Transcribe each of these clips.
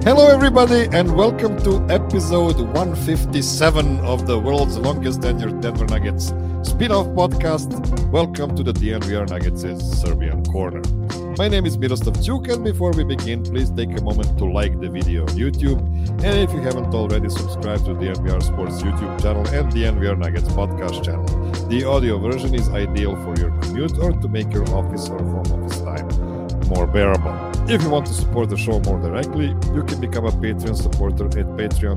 Hello, everybody, and welcome to episode 157 of the world's longest tenured Denver Nuggets spin-off podcast. Welcome to the DNVR Nuggets' Serbian Corner. My name is Miroslav Čuk, and before we begin, please take a moment to like the video on YouTube. And if you haven't already, subscribe to the DNVR Sports YouTube channel and the DNVR Nuggets podcast channel. The audio version is ideal for your commute or to make your office or home office time more bearable. If you want to support the show more directly, you can become a Patreon supporter at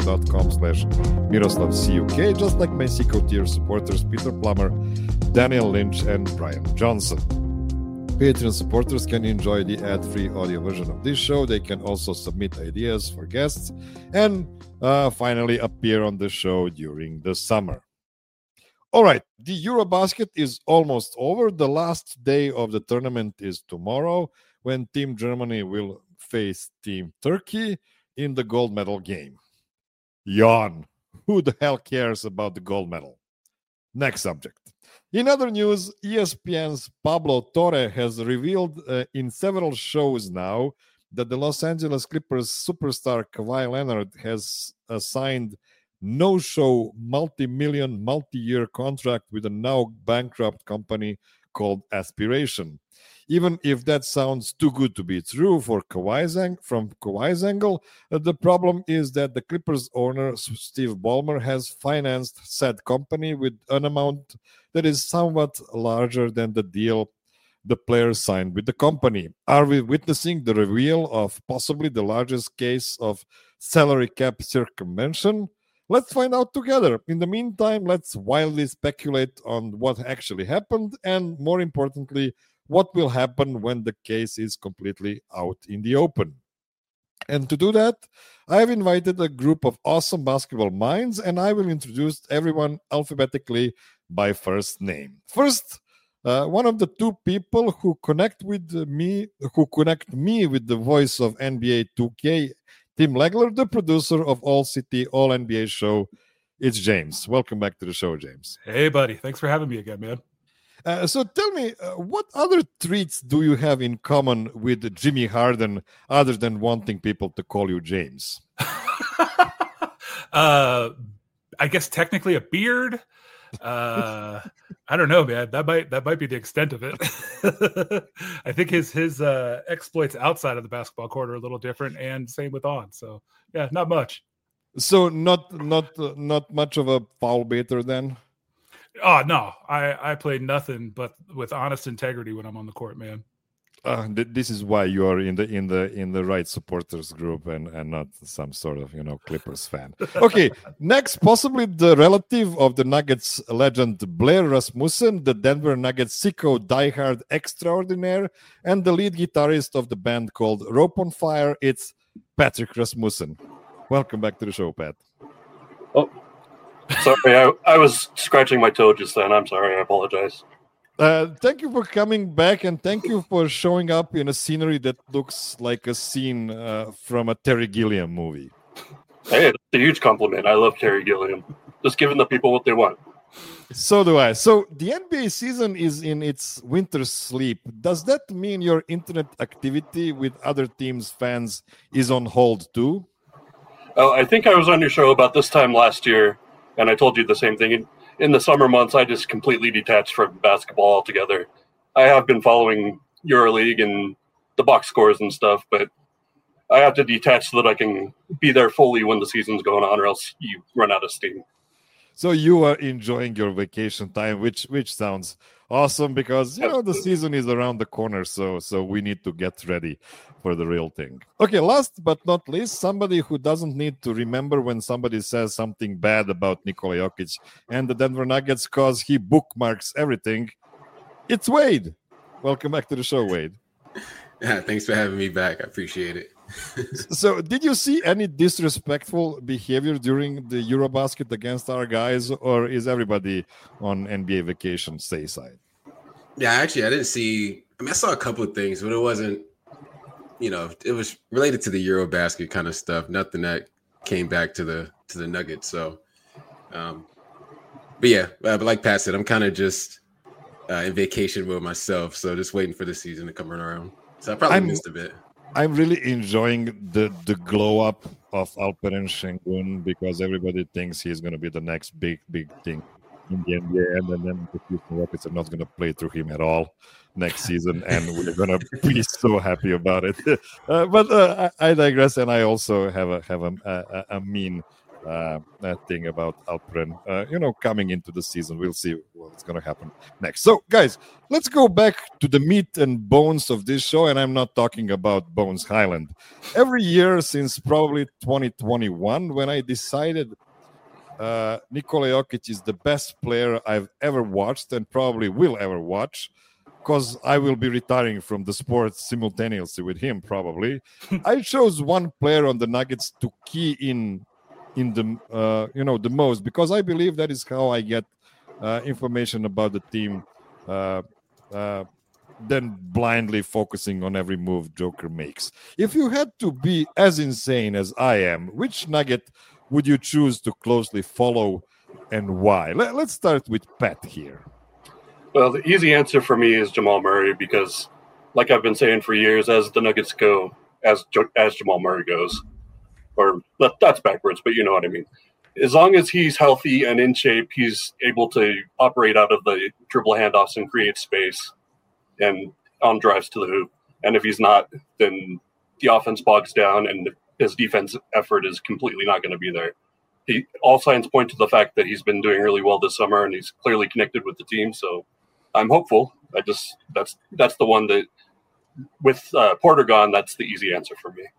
patreon.com/MiroslavCuk, just like my Seco tier supporters Peter Plummer, Daniel Lynch, and Brian Johnson. Patreon supporters can enjoy the ad-free audio version of this show. They can also submit ideas for guests and finally appear on the show during the summer. All right, the Eurobasket is almost over. The last day of the tournament is tomorrow, when Team Germany will face Team Turkey in the gold medal game. Yawn. Who the hell cares about the gold medal? Next subject. In other news, ESPN's Pablo Torre has revealed in several shows now that the Los Angeles Clippers superstar Kawhi Leonard has signed no-show multi-million, multi-year contract with a now bankrupt company called Aspiration. Even if that sounds too good to be true from Kawhi's angle, the problem is that the Clippers owner, Steve Ballmer, has financed said company with an amount that is somewhat larger than the deal the players signed with the company. Are we witnessing the reveal of possibly the largest case of salary cap circumvention? Let's find out together. In the meantime, let's wildly speculate on what actually happened and, more importantly, what will happen when the case is completely out in the open. And to do that, I've invited a group of awesome basketball minds, and I will introduce everyone alphabetically by first name. First, one of the two people who connect me with the voice of NBA 2K, Tim Legler, the producer of All City, All NBA show. It's James. Welcome back to the show, James. Hey, buddy. Thanks for having me again, man. So tell me, what other traits do you have in common with Jimmy Harden other than wanting people to call you James? I guess technically a beard. I don't know, man. That might be the extent of it. I think his exploits outside of the basketball court are a little different, and same with on. So yeah, not much. So not much of a foul baiter then. Oh no, I play nothing but with honest integrity when I'm on the court, man. This is why you are in the right supporters group and not some sort of Clippers fan. Okay, next, possibly the relative of the Nuggets legend Blair Rasmussen, the Denver Nuggets sicko diehard extraordinaire, and the lead guitarist of the band called Rope on Fire. It's Patrick Rasmussen. Welcome back to the show, Pat. Oh. Sorry, I was scratching my toe just then. I'm sorry. I apologize. Thank you for coming back, and thank you for showing up in a scenery that looks like a scene from a Terry Gilliam movie. Hey, it's a huge compliment. I love Terry Gilliam. Just giving the people what they want. So do I. So the NBA season is in its winter sleep. Does that mean your internet activity with other teams' fans is on hold too? Oh, I think I was on your show about this time last year. And I told you the same thing. In the summer months, I just completely detached from basketball altogether. I have been following EuroLeague and the box scores and stuff, but I have to detach so that I can be there fully when the season's going on, or else you run out of steam. So you are enjoying your vacation time, which sounds awesome, because the season is around the corner, so we need to get ready for the real thing. Okay, last but not least, somebody who doesn't need to remember when somebody says something bad about Nikola Jokic and the Denver Nuggets because he bookmarks everything. It's Wade. Welcome back to the show, Wade. Yeah, thanks for having me back. I appreciate it. So did you see any disrespectful behavior during the Eurobasket against our guys, or is everybody on NBA vacation stay side? Yeah, actually, I didn't see. I mean, I saw a couple of things, but it wasn't, it was related to the Eurobasket kind of stuff. Nothing that came back to the Nuggets. So, but yeah, but like Pat said, I'm kind of just in vacation mode myself. So just waiting for the season to come around. So I probably missed a bit. I'm really enjoying the glow up of Alperen Şengün because everybody thinks he's going to be the next big thing in the NBA, and then the Houston Rockets are not going to play through him at all next season, and we're going to be so happy about it. But I digress, and I also have a mean thing about Alperen. Coming into the season, we'll see what's going to happen next. So, guys, let's go back to the meat and bones of this show, and I'm not talking about Bones Highland. Every year since probably 2021, when I decided Nikola Jokic is the best player I've ever watched and probably will ever watch, because I will be retiring from the sport simultaneously with him probably. I chose one player on the Nuggets to key in the the most, because I believe that is how I get information about the team than blindly focusing on every move Joker makes. If you had to be as insane as I am, which Nugget would you choose to closely follow and why? Let's start with Pat here. Well, the easy answer for me is Jamal Murray, because like I've been saying for years, as the Nuggets go, as Jamal Murray goes, or that's backwards, but you know what I mean. As long as he's healthy and in shape, he's able to operate out of the dribble handoffs and create space and on drives to the hoop. And if he's not, then the offense bogs down and his defense effort is completely not going to be there. All signs point to the fact that he's been doing really well this summer, and he's clearly connected with the team. So I'm hopeful. That's the one that, with Porter gone, that's the easy answer for me.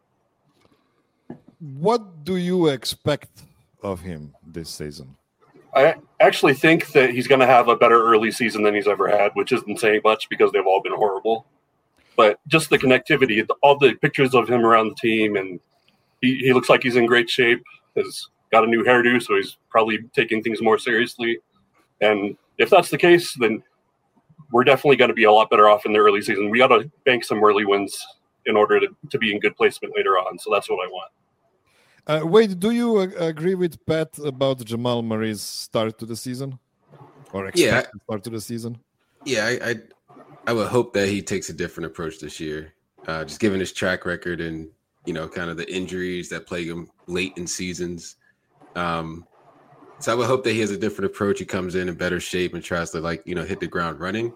What do you expect of him this season? I actually think that he's going to have a better early season than he's ever had, which isn't saying much because they've all been horrible. But just the connectivity, all the pictures of him around the team, and he looks like he's in great shape. Has got a new hairdo, so he's probably taking things more seriously. And if that's the case, then we're definitely going to be a lot better off in the early season. We got to bank some early wins in order to be in good placement later on. So that's what I want. Wade, do you agree with Pat about Jamal Murray's start to the season, or expected start to the season? Yeah, I would hope that he takes a different approach this year, just given his track record and kind of the injuries that plague him late in seasons. So I would hope that he has a different approach. He comes in better shape and tries to hit the ground running,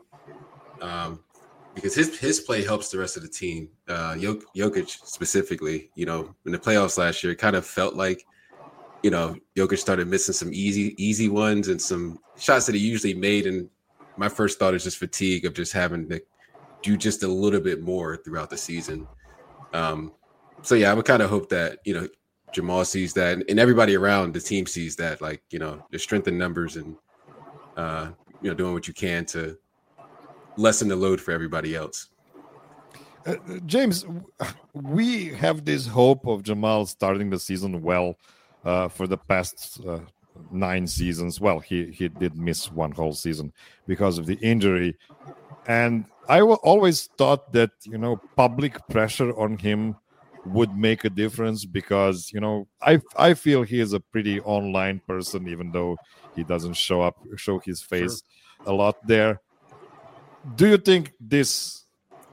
because his play helps the rest of the team. Jokic specifically, in the playoffs last year, it kind of felt like, Jokic started missing some easy ones and some shots that he usually made. And my first thought is just fatigue of just having to do just a little bit more throughout the season. So yeah, I would kind of hope that, Jamal sees that and everybody around the team sees that, the strength in numbers and, doing what you can to lessen the load for everybody else. James, we have this hope of Jamal starting the season well for the past 9 seasons. Well, he did miss one whole season because of the injury. And I always thought that, public pressure on him would make a difference because, I feel he is a pretty online person, even though he doesn't show his face a lot there. Do you think this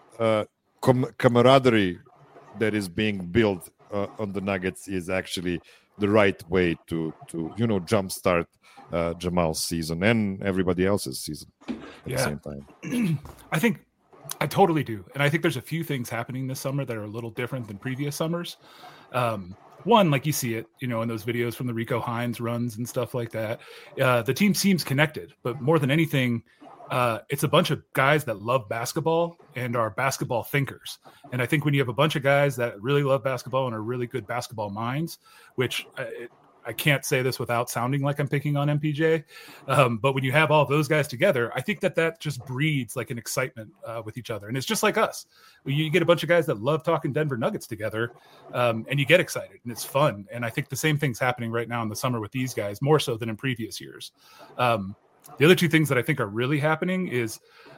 camaraderie that is being built on the Nuggets is actually the right way to jumpstart Jamal's season and everybody else's season at the same time? I totally do. And I think there's a few things happening this summer that are a little different than previous summers. One, like you see it, in those videos from the Rico Hines runs and stuff like that. The team seems connected, but more than anything, it's a bunch of guys that love basketball and are basketball thinkers. And I think when you have a bunch of guys that really love basketball and are really good basketball minds, which I can't say this without sounding like I'm picking on MPJ, but when you have all those guys together, I think that just breeds like an excitement with each other. And it's just like us. You get a bunch of guys that love talking Denver Nuggets together, and you get excited and it's fun. And I think the same thing's happening right now in the summer with these guys, more so than in previous years. The other two things that I think are really happening is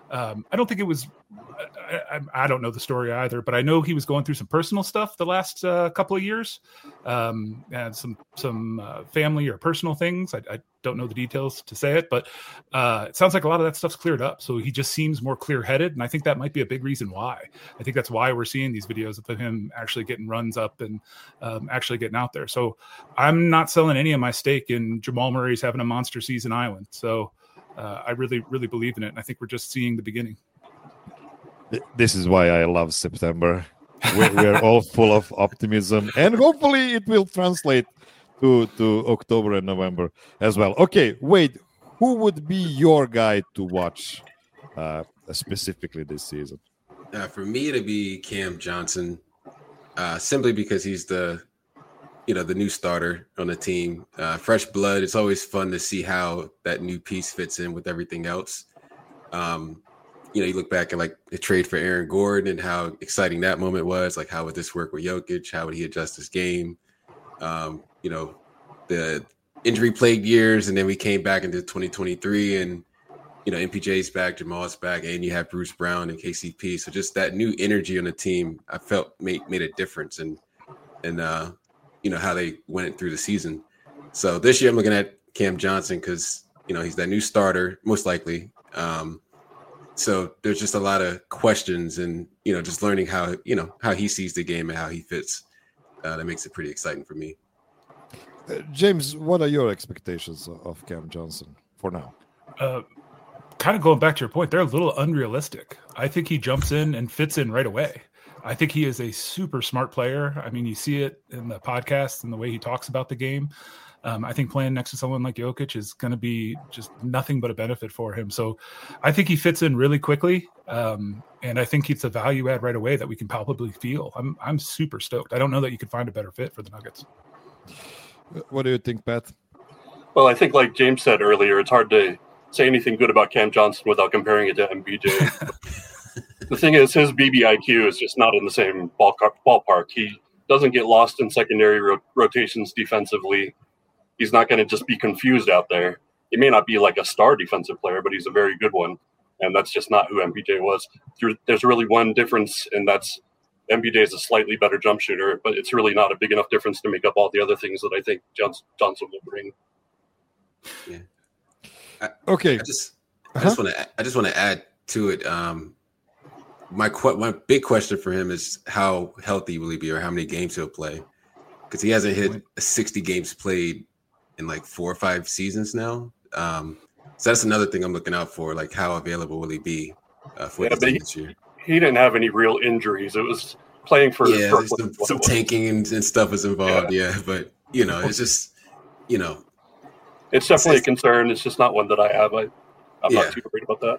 I don't think it was. I don't know the story either, but I know he was going through some personal stuff the last couple of years, and some family or personal things. I don't know the details to say it, but it sounds like a lot of that stuff's cleared up. So he just seems more clear-headed, and I think that might be a big reason why. I think that's why we're seeing these videos of him actually getting runs up and actually getting out there. So I'm not selling any of my stake in Jamal Murray's having a monster season island. So I really, really believe in it, and I think we're just seeing the beginning. This is why I love September. We're all full of optimism, and hopefully it will translate to October and November as well. Okay, wait, who would be your guy to watch specifically this season? For me, it'd be Cam Johnson, simply because he's the new starter on the team. Fresh blood. It's always fun to see how that new piece fits in with everything else. You look back at like the trade for Aaron Gordon and how exciting that moment was. Like, how would this work with Jokic? How would he adjust his game? The injury-plagued years, and then we came back into 2023, and MPJ's back, Jamal's back, and you have Bruce Brown and KCP. So just that new energy on the team, I felt made a difference, and how they went through the season. So this year I'm looking at Cam Johnson because he's that new starter, most likely. So there's just a lot of questions, and just learning how he sees the game and how he fits. That makes it pretty exciting for me. James, what are your expectations of Cam Johnson for now? Kind of going back to your point, they're a little unrealistic. I think he jumps in and fits in right away. I think he is a super smart player. I mean, you see it in the podcast and the way he talks about the game. I think playing next to someone like Jokic is going to be just nothing but a benefit for him. So I think he fits in really quickly. And I think it's a value add right away that we can palpably feel. I'm super stoked. I don't know that you could find a better fit for the Nuggets. What do you think, Pat? Well, I think like James said earlier, it's hard to say anything good about Cam Johnson without comparing it to MPJ. The thing is, his BBIQ is just not in the same ballpark. He doesn't get lost in secondary rotations defensively. He's not going to just be confused out there. He may not be like a star defensive player, but he's a very good one. And that's just not who MPJ was. There's really one difference, and that's MPJ is a slightly better jump shooter, but it's really not a big enough difference to make up all the other things that I think Johnson will bring. Yeah. Okay. I just want to add to it. My big question for him is how healthy will he be, or how many games he'll play, because he hasn't hit 60 games played in like 4 or 5 seasons now. So that's another thing I'm looking out for, like how available will he be for this year? He didn't have any real injuries. It was playing for some tanking and stuff was involved. Yeah, but it's just it's definitely a concern. It's just not one that I have. I'm not too worried about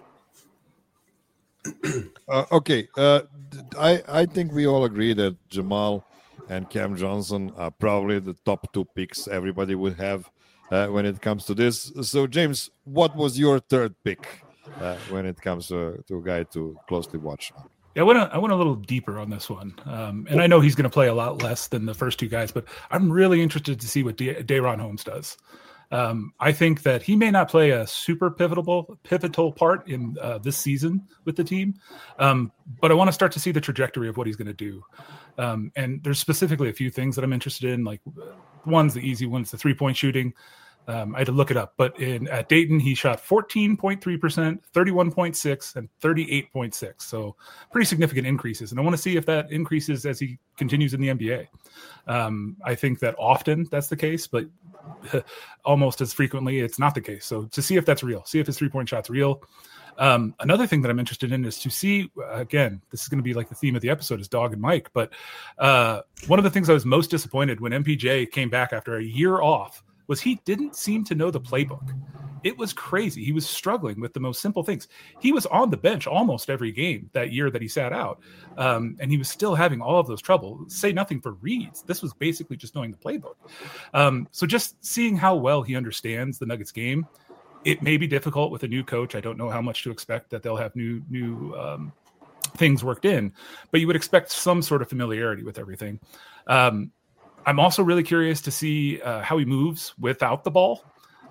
that. Okay, I think we all agree that Jamal and Cam Johnson are probably the top 2 picks everybody would have when it comes to this. So, James, what was your third pick when it comes to a guy to closely watch? Yeah, I went a little deeper on this one. And I know he's going to play a lot less than the first 2 guys, but I'm really interested to see what Day'Ron Holmes does. I think that he may not play a super pivotal part in this season with the team, but I want to start to see the trajectory of what he's going to do. And there's specifically a few things that I'm interested in. Like, one's the easy one, it's the 3-point shooting. I had to look it up, but at Dayton, he shot 14.3%, 31.6%, and 38.6%. So pretty significant increases. And I want to see if that increases as he continues in the NBA. I think that often that's the case, but almost as frequently it's not the case. So to see if that's real, see if his 3-point shot's real. Another thing that I'm interested in is to see, again, this is going to be like the theme of the episode is Dog and Mike, but one of the things I was most disappointed when MPJ came back after a year off was he didn't seem to know the playbook. It was crazy. He was struggling with the most simple things. He was on the bench almost every game that year that he sat out, and he was still having all of those trouble. Say nothing for reads. This was basically just knowing the playbook. So just seeing how well he understands the Nuggets game. It may be difficult with a new coach. I don't know how much to expect that they'll have new things worked in, but you would expect some sort of familiarity with everything. I'm also really curious to see how he moves without the ball.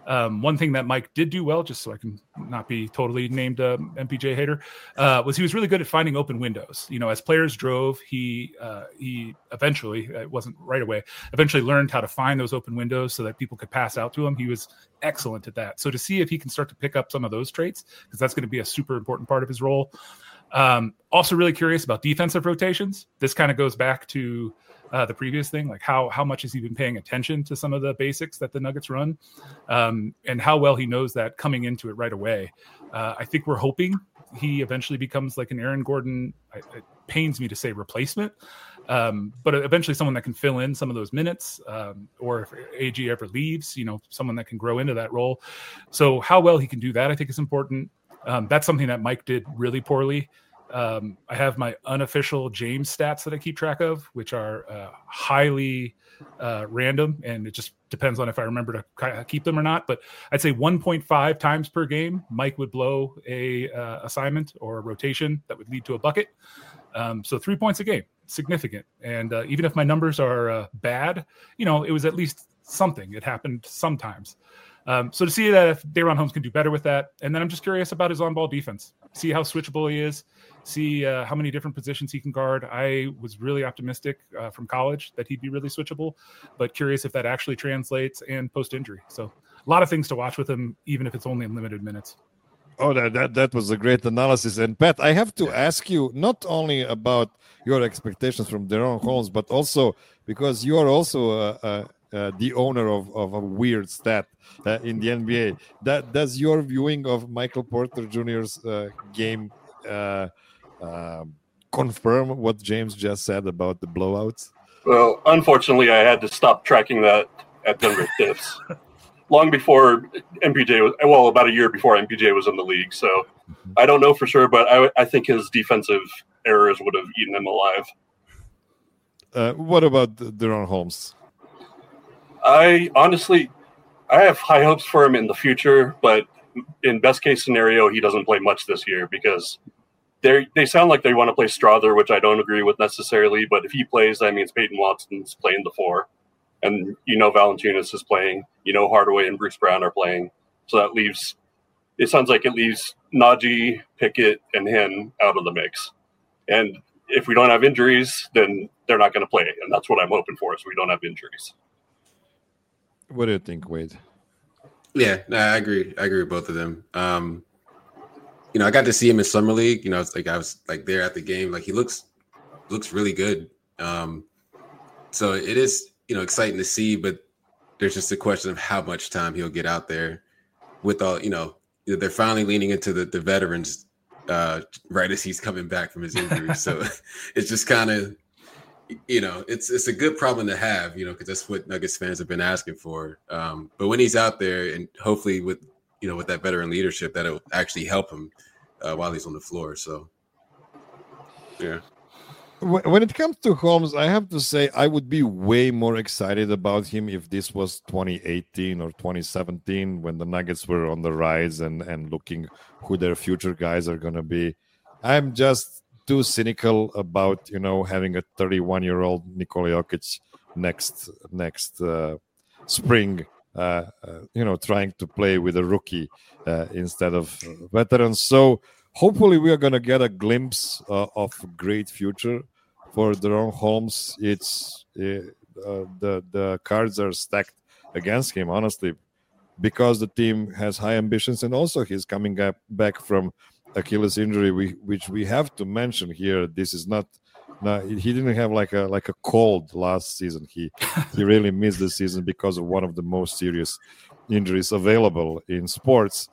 One thing that Mike did do well, just so I can not be totally named a MPJ hater, was he was really good at finding open windows. As players drove, he eventually, it wasn't right away, eventually learned how to find those open windows so that people could pass out to him. He was excellent at that. So to see if he can start to pick up some of those traits, because that's going to be a super important part of his role. Also really curious about defensive rotations. This kind of goes back to the previous thing, like how much has he been paying attention to some of the basics that the Nuggets run, and how well he knows that coming into it right away. I think we're hoping he eventually becomes like an Aaron Gordon, it pains me to say replacement, but eventually someone that can fill in some of those minutes, or if AG ever leaves, someone that can grow into that role. So how well he can do that, I think is important. That's something that Mike did really poorly. I have my unofficial James stats that I keep track of, which are highly random, and it just depends on if I remember to keep them or not. But I'd say 1.5 times per game, Mike would blow a assignment or a rotation that would lead to a bucket. So 3 points a game, significant. And even if my numbers are bad, it was at least something. It happened sometimes. So to see that if DaRon Holmes can do better with that, and then I'm just curious about his on-ball defense. See how switchable he is. See how many different positions he can guard. I was really optimistic from college that he'd be really switchable, but curious if that actually translates and post-injury. So a lot of things to watch with him, even if it's only in limited minutes. Oh, that was a great analysis. And Pat, I have to ask you not only about your expectations from DaRon Holmes, but also because you are also the owner of a weird stat in the NBA. Does your viewing of Michael Porter Jr.'s game confirm what James just said about the blowouts? Well, unfortunately, I had to stop tracking that at Denver Stiffs long before MPJ was, well, about a year before MPJ was in the league. So I don't know for sure, but I think his defensive errors would have eaten him alive. What about DaRon Holmes? I have high hopes for him in the future, but in best case scenario, he doesn't play much this year because they sound like they want to play Strother, which I don't agree with necessarily. But if he plays, that means Peyton Watson's playing the 4, and Valanciunas is playing. Hardaway and Bruce Brown are playing. So that leaves. It sounds like it leaves Najee, Pickett, and him out of the mix. And if we don't have injuries, then they're not going to play, and that's what I'm hoping for. So we don't have injuries. What do you think, Wade? Yeah, I agree. I agree with both of them. I got to see him in summer league. It's like I was like there at the game. Like he looks really good. So it is exciting to see, but there's just a question of how much time he'll get out there. With all they're finally leaning into the veterans right as he's coming back from his injury. So it's just kind of. It's a good problem to have, because that's what Nuggets fans have been asking for. But when he's out there, and hopefully with that veteran leadership, that'll actually help him while he's on the floor. So, yeah. When it comes to Holmes, I have to say I would be way more excited about him if this was 2018 or 2017 when the Nuggets were on the rise and looking who their future guys are going to be. I'm just too cynical about having a 31-year-old Nikola Jokic next spring, trying to play with a rookie instead of veterans. So hopefully we are going to get a glimpse of a great future for DaRon Holmes. It's the cards are stacked against him, honestly, because the team has high ambitions, and also he's coming back from Achilles injury, which we have to mention here. This is not he didn't have like a cold last season. He really missed the season because of one of the most serious injuries available in sports.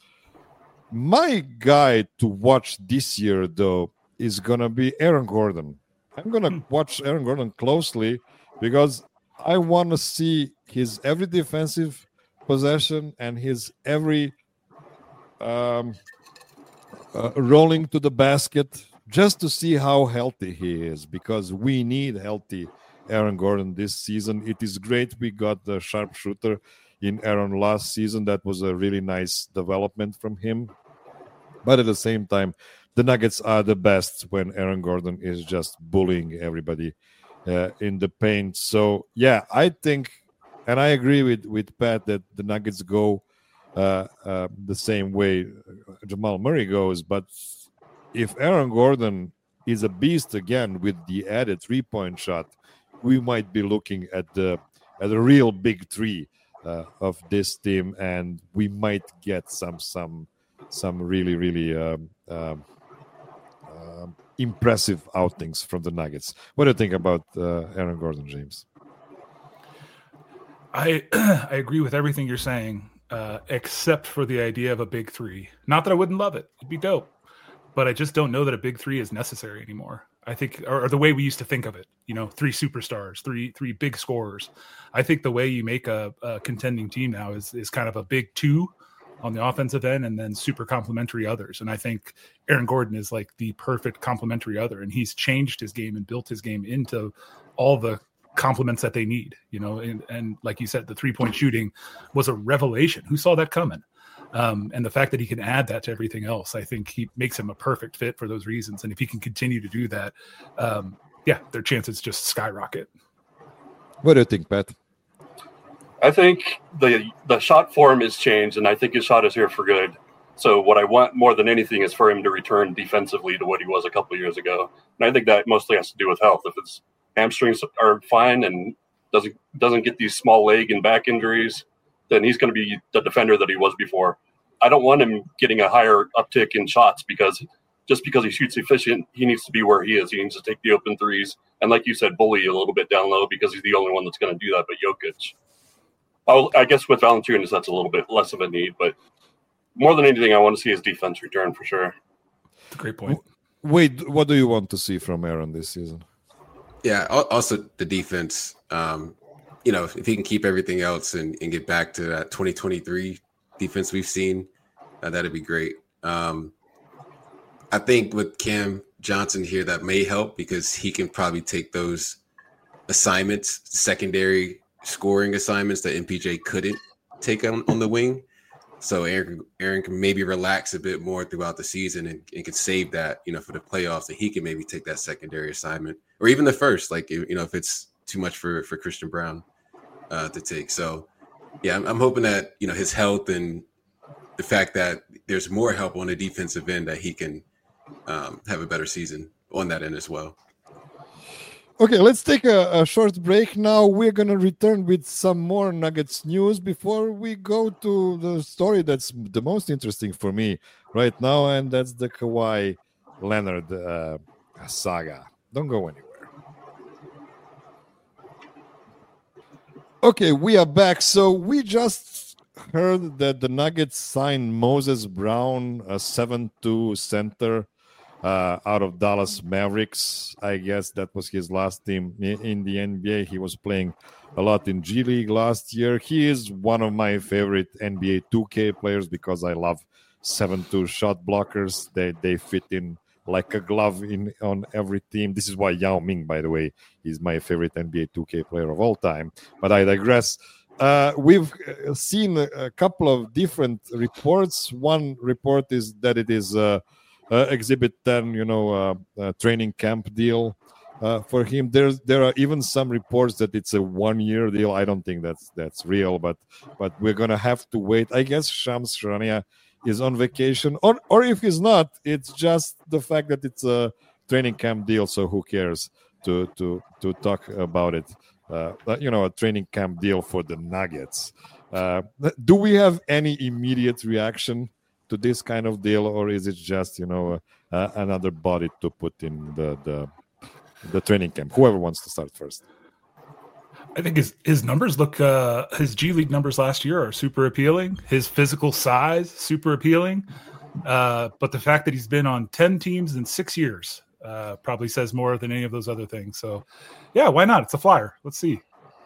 My guy to watch this year, though, is gonna be Aaron Gordon. I'm gonna watch Aaron Gordon closely because I want to see his every defensive possession and his every rolling to the basket, just to see how healthy he is, because we need healthy Aaron Gordon this season. It is great we got the sharpshooter in Aaron last season. That was a really nice development from him. But at the same time, the Nuggets are the best when Aaron Gordon is just bullying everybody in the paint. So, yeah, I think, and I agree with Pat, that the Nuggets go the same way Jamal Murray goes. But if Aaron Gordon is a beast again with the added 3-point shot, we might be looking at a real big three of this team, and we might get some really impressive outings from the Nuggets. What do you think about Aaron Gordon, James? I agree with everything you're saying, except for the idea of a big three. Not that I wouldn't love it; it'd be dope, but I just don't know that a big three is necessary anymore. I think, or the way we used to think of it, 3 superstars, three big scorers. I think the way you make a contending team now is kind of a big 2 on the offensive end and then super complementary others. And I think Aaron Gordon is like the perfect complementary other, and he's changed his game and built his game into all the complements that they need, and like you said, the 3-point shooting was a revelation. Who saw that coming? And the fact that he can add that to everything else, I think he makes him a perfect fit for those reasons. And if he can continue to do that, their chances just skyrocket. What do you think, Pat? I think the shot form is changed, and I think his shot is here for good. So what I want more than anything is for him to return defensively to what he was a couple of years ago. And I think that mostly has to do with health. If his hamstrings are fine and doesn't get these small leg and back injuries, then he's going to be the defender that he was before. I don't want him getting a higher uptick in shots because he shoots efficient, he needs to be where he is. He needs to take the open threes. And like you said, bully a little bit down low because he's the only one that's going to do that, but Jokic. I guess with Valanciunas, that's a little bit less of a need, but more than anything, I want to see his defense return for sure. That's a great point. Wait, what do you want to see from Aaron this season? Yeah, also the defense. If he can keep everything else and get back to that 2023 defense we've seen, that'd be great. I think with Cam Johnson here, that may help because he can probably take those assignments, secondary scoring assignments that MPJ couldn't take on the wing. So Aaron can maybe relax a bit more throughout the season and can save that, for the playoffs, and he can maybe take that secondary assignment or even the first, like, if it's too much for Christian Brown to take. So, yeah, I'm hoping that, his health and the fact that there's more help on the defensive end that he can have a better season on that end as well. Okay, let's take a short break now. We're going to return with some more Nuggets news before we go to the story that's the most interesting for me right now, and that's the Kawhi Leonard saga. Don't go anywhere. Okay, we are back. So we just heard that the Nuggets signed Moses Brown, a 7'2" center, out of Dallas Mavericks. I guess that was his last team in the NBA. He was playing a lot in G League last year. He is one of my favorite NBA 2K players because I love 7'2" shot blockers. They fit in like a glove on every team. This is why Yao Ming, by the way, is my favorite NBA 2K player of all time. But I digress. We've seen a couple of different reports. One report is that it is Exhibit 10, training camp deal for him. There are even some reports that it's a 1-year deal. I don't think that's real, but we're gonna have to wait. I guess Shams Charania is on vacation, or if he's not, it's just the fact that it's a training camp deal. So who cares to talk about it? A training camp deal for the Nuggets. Do we have any immediate reaction to this kind of deal, or is it just another body to put in the training camp? Whoever wants to start first. I think his numbers look his G League numbers last year are super appealing. His physical size super appealing, but the fact that he's been on 10 teams in 6 years probably says more than any of those other things. So yeah, why not? It's a flyer. Let's see.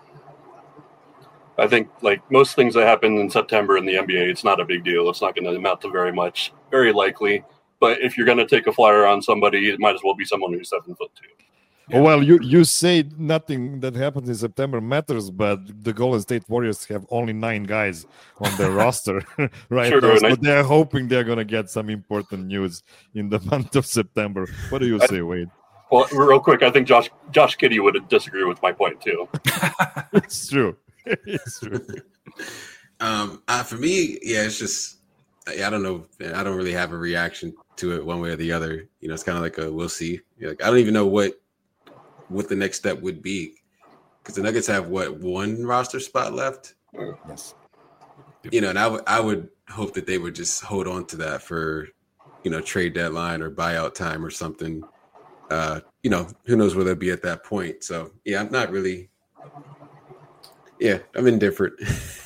I think, like most things that happen in September in the NBA, it's not a big deal. It's not going to amount to very much, very likely. But if you're going to take a flyer on somebody, it might as well be someone who's 7'2". Yeah. Well, you say nothing that happens in September matters, but the Golden State Warriors have only 9 guys on their roster right now. So they're hoping they're going to get some important news in the month of September. What do you say, Wade? Well, real quick, I think Josh Giddey would disagree with my point, too. It's true. It's true. For me, yeah, it's just I don't know. I don't really have a reaction to it one way or the other. You know, it's kind of like a we'll see. Like, I don't even know what the next step would be, because the Nuggets have one roster spot left. Yes. You know, and I would hope that they would just hold on to that for, you know, trade deadline or buyout time or something. You know, who knows where they'll be at that point. So yeah, I'm not really. Yeah, I'm indifferent.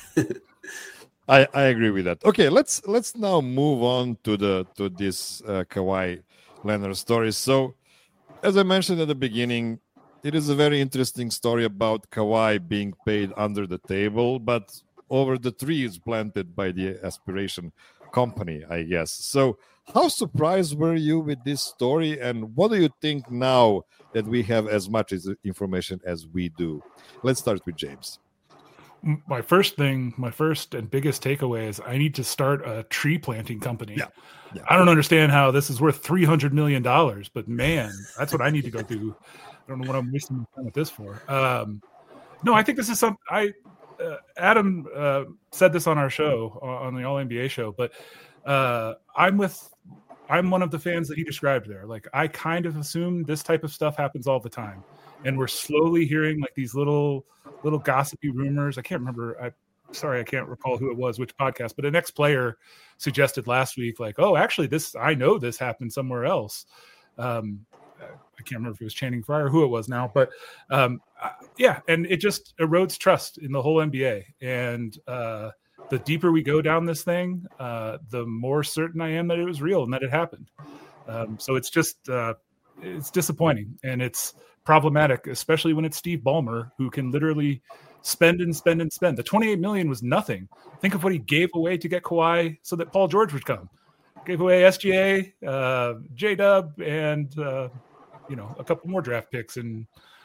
I agree with that. Okay, let's now move on to this Kawhi Leonard story. So, as I mentioned at the beginning, it is a very interesting story about Kawhi being paid under the table, but over the trees planted by the Aspiration Company, I guess. So, how surprised were you with this story, and what do you think now that we have as much information as we do? Let's start with James. My first and biggest takeaway is I need to start a tree planting company. Yeah. I don't understand how this is worth $300 million, but man, that's what I need to go do. I don't know what I'm wasting my time with this for. No, I think this is something Adam said this on our show, on the All NBA show, but I'm one of the fans that he described there. Like, I kind of assume this type of stuff happens all the time. And we're slowly hearing like these little gossipy rumors. I can't remember. I can't recall who it was, which podcast, but an ex-player suggested last week, like, oh, actually I know this happened somewhere else. I can't remember if it was Channing Frye or who it was now, but yeah. And it just erodes trust in the whole NBA. And the deeper we go down this thing, the more certain I am that it was real and that it happened. So it's just, it's disappointing, and it's problematic, especially when it's Steve Ballmer, who can literally spend and spend and spend. The $28 million was nothing. Think of what he gave away to get Kawhi so that Paul George would come. Gave away SGA, J-Dub, and you know, a couple more draft picks, and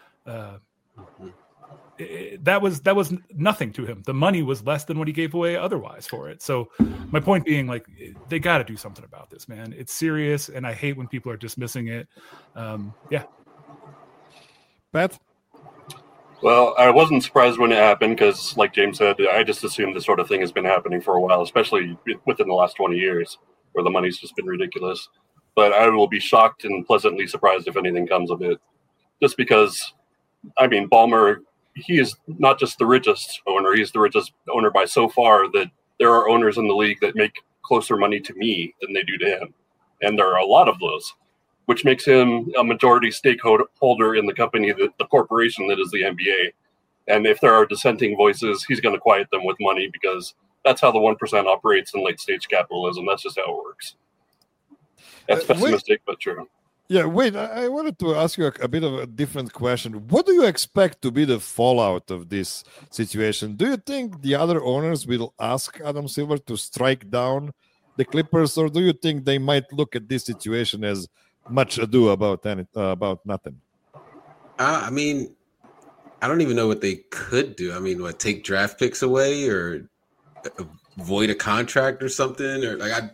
that was nothing to him. The money was less than what he gave away otherwise for it. So my point being, like, they got to do something about this, man. It's serious, and I hate when people are dismissing it. Yeah. Pat? Well, I wasn't surprised when it happened because, like James said, I just assumed this sort of thing has been happening for a while, especially within the last 20 years, where the money's just been ridiculous. But I will be shocked and pleasantly surprised if anything comes of it. Just because, I mean, Ballmer, he is not just the richest owner, he's the richest owner by so far that there are owners in the league that make closer money to me than they do to him. And there are a lot of those, which makes him a majority stakeholder in the company, the corporation that is the NBA. And if there are dissenting voices, he's going to quiet them with money, because that's how the 1% operates in late stage capitalism. That's just how it works. That's pessimistic, but true. Yeah, wait, I wanted to ask you a bit of a different question. What do you expect to be the fallout of this situation? Do you think the other owners will ask Adam Silver to strike down the Clippers, or do you think they might look at this situation as much ado about nothing? I mean, I don't even know what they could do. I mean, what, take draft picks away or void a contract or something, or like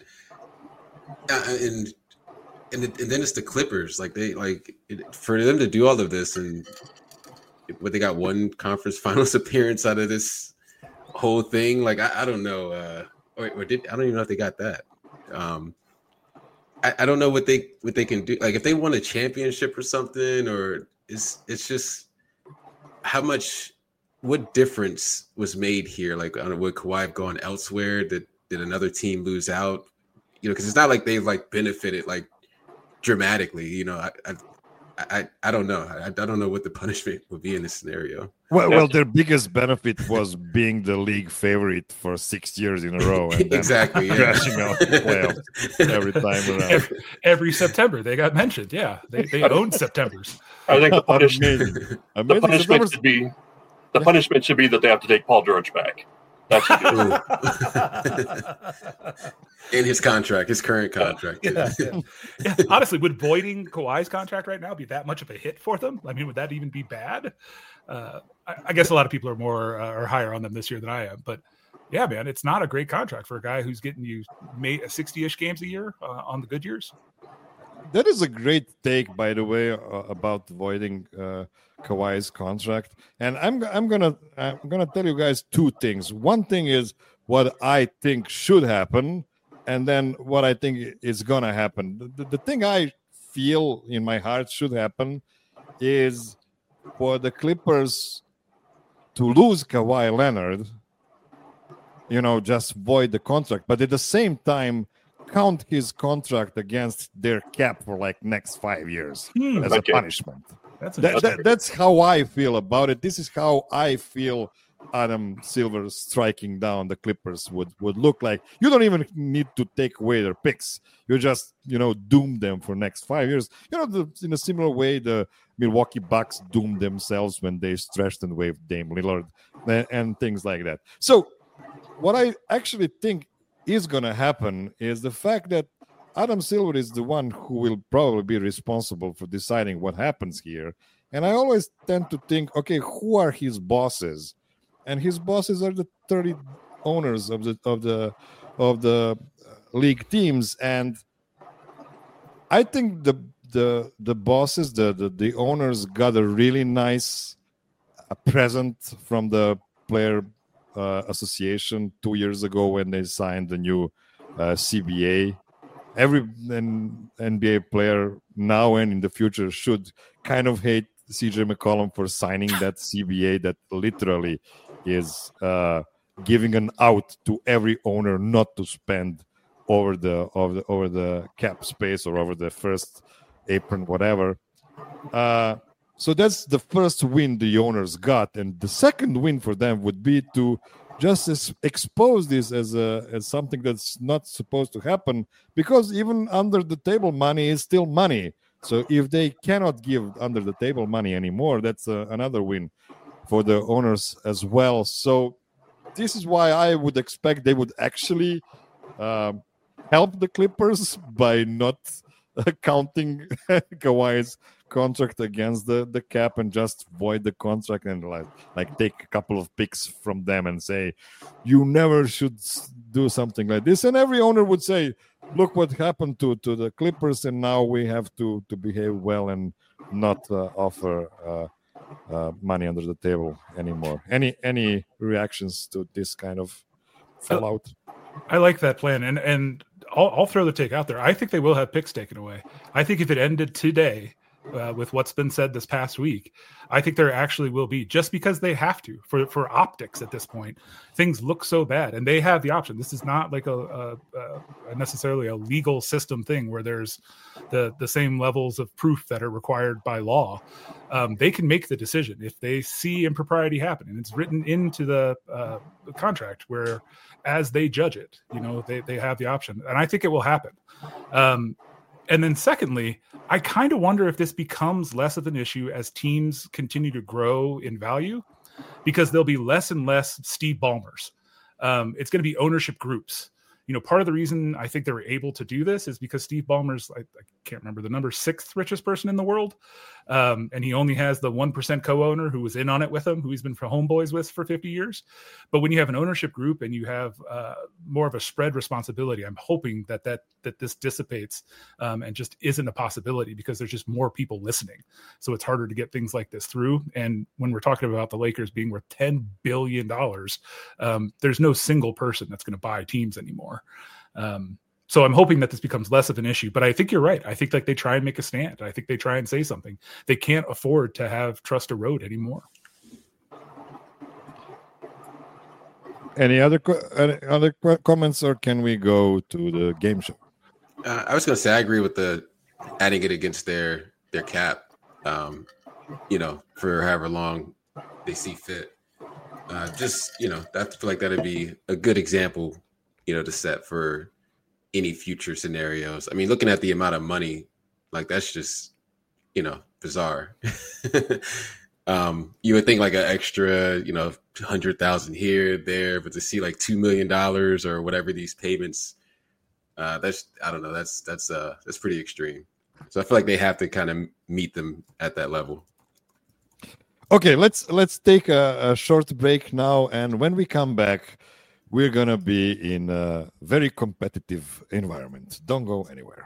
and then it's the Clippers. Like for them to do all of this, and what, they got one conference finals appearance out of this whole thing. Like I don't know, I don't even know if they got that. I don't know what they can do. Like if they won a championship or something, or it's just what difference was made here? Like, I don't know, would Kawhi have gone elsewhere? Did another team lose out? You know, because it's not like they've like benefited like dramatically. You know, I don't know. I don't know what the punishment would be in this scenario. Well, their biggest benefit was being the league favorite for 6 years in a row, and then exactly, crashing out the playoffs every time around. Every September they got mentioned. Yeah, they own Septembers. I think the punishment should be that they have to take Paul George back. That should be in his contract, his current contract. Yeah. Honestly, would voiding Kawhi's contract right now be that much of a hit for them? I mean, would that even be bad? I guess a lot of people are higher on them this year than I am, but yeah, man, it's not a great contract for a guy who's getting you 60-ish games a year on the good years. That is a great take, by the way, about voiding Kawhi's contract. And I'm gonna tell you guys two things. One thing is, what I think should happen, and then what I think is going to happen. The thing I feel in my heart should happen is for the Clippers to lose Kawhi Leonard, just void the contract, but at the same time count his contract against their cap for like next 5 years as a punishment. That's how I feel about it. This is how I feel Adam Silver striking down the Clippers would look like. You don't even need to take away their picks. You just, doom them for next 5 years. In a similar way, the Milwaukee Bucks doomed themselves when they stretched and waived Dame Lillard and things like that. So what I actually think is going to happen is the fact that Adam Silver is the one who will probably be responsible for deciding what happens here. And I always tend to think, okay, who are his bosses? And his bosses are the 30 owners of the league teams. And I think the bosses, the owners got a really nice present from the player association 2 years ago when they signed the new CBA. Every NBA player now and in the future should kind of hate CJ McCollum for signing that CBA that literally is giving an out to every owner not to spend over the cap space or over the first apron, whatever. So that's the first win the owners got, and the second win for them would be to just expose this as something that's not supposed to happen, because even under the table money is still money. So if they cannot give under the table money anymore, that's another win for the owners as well. So this is why I would expect they would actually help the Clippers by not counting Kawhi's contract against the cap and just void the contract and like take a couple of picks from them and say, you never should do something like this. And every owner would say, look what happened to the Clippers, and now we have to behave well and not offer money under the table anymore. Any reactions to this kind of fallout? I like that plan, and I'll throw the take out there. I think they will have picks taken away. I think if it ended today, with what's been said this past week, I think there actually will be, just because they have to for optics at this point. Things look so bad, and they have the option. This is not like a necessarily a legal system thing where there's the same levels of proof that are required by law. They can make the decision if they see impropriety happen, and it's written into the contract where, as they judge it, they have the option, and I think it will happen. And then secondly, I kind of wonder if this becomes less of an issue as teams continue to grow in value, because there'll be less and less Steve Ballmers. It's going to be ownership groups. Part of the reason I think they were able to do this is because Steve Ballmer's, I can't remember the number, 6th richest person in the world. And he only has the 1% co-owner who was in on it with him, who he's been for homeboys with for 50 years. But when you have an ownership group and you have more of a spread responsibility, I'm hoping that this dissipates and just isn't a possibility, because there's just more people listening. So it's harder to get things like this through. And when we're talking about the Lakers being worth $10 billion, there's no single person that's going to buy teams anymore. So I'm hoping that this becomes less of an issue, but I think you're right. I think they try and make a stand. I think they try and say something. They can't afford to have trust erode anymore. Any other comments, or can we go to the game show? I was going to say, I agree with the adding it against their cap, for however long they see fit. I feel like that'd be a good example, to set for any future scenarios. I mean, looking at the amount of money, like, that's just, bizarre. You would think like an extra, 100,000 here, there, but to see like $2 million or whatever these payments, I don't know. That's pretty extreme. So I feel like they have to kind of meet them at that level. Okay, let's take a short break now, and when we come back, we're going to be in a very competitive environment. Don't go anywhere.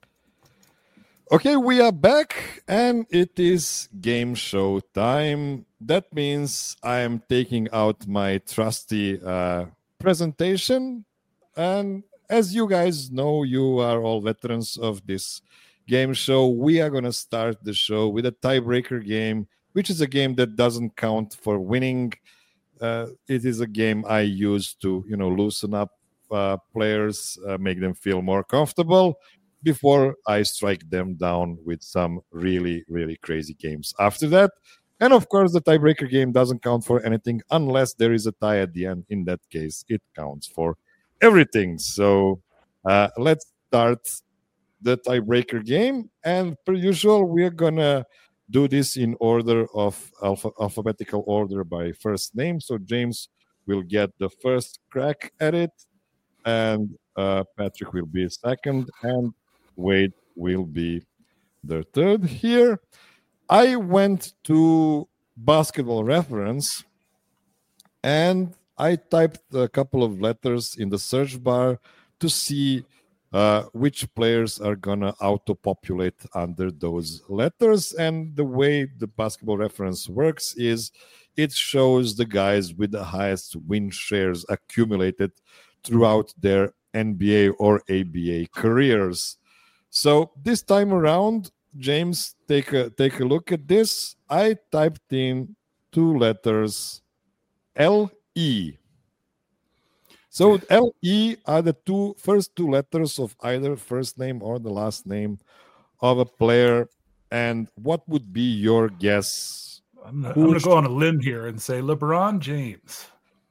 Okay, we are back, and it is game show time. that means I am taking out my trusty presentation. And as you guys know, you are all veterans of this game show. We are going to start the show with a tiebreaker game, which is a game that doesn't count for winning. It is a game I use to, loosen up players, make them feel more comfortable before I strike them down with some really, really crazy games after that. And of course, the tiebreaker game doesn't count for anything unless there is a tie at the end. In that case, it counts for everything. So let's start the tiebreaker game. And per usual, we're going to do this in order of alphabetical order by first name. So James will get the first crack at it, and Patrick will be second, and Wade will be the third here. I went to Basketball Reference, and I typed a couple of letters in the search bar to see which players are going to auto-populate under those letters. And the way the Basketball Reference works is it shows the guys with the highest win shares accumulated throughout their NBA or ABA careers. So this time around, James, take a look at this. I typed in two letters, L-E. So L-E are the first two letters of either first name or the last name of a player. And what would be your guess? I'm going to go on a limb here and say LeBron James.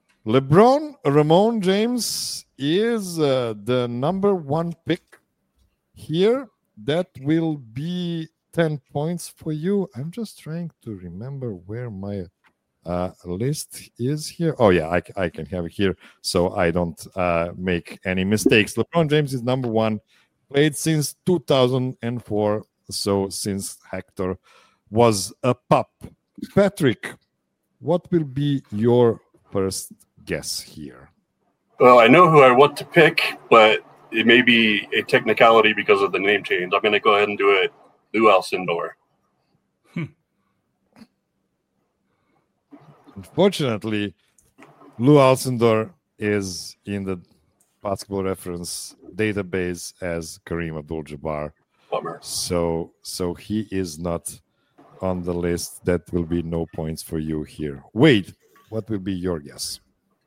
Ramon James is the number one pick here. That will be 10 points for you. I'm just trying to remember where my list is here. Oh, yeah, I can have it here so I don't make any mistakes. LeBron James is number one, played since 2004, so since Hector was a pup. Patrick, what will be your first guess here? Well, I know who I want to pick, but it may be a technicality because of the name change. I'm going to go ahead and do it. Lou Alcindor. Unfortunately, Lou Alcindor is in the Basketball Reference database as Kareem Abdul-Jabbar. Bummer. So he is not on the list. That will be no points for you here. Wade, what will be your guess?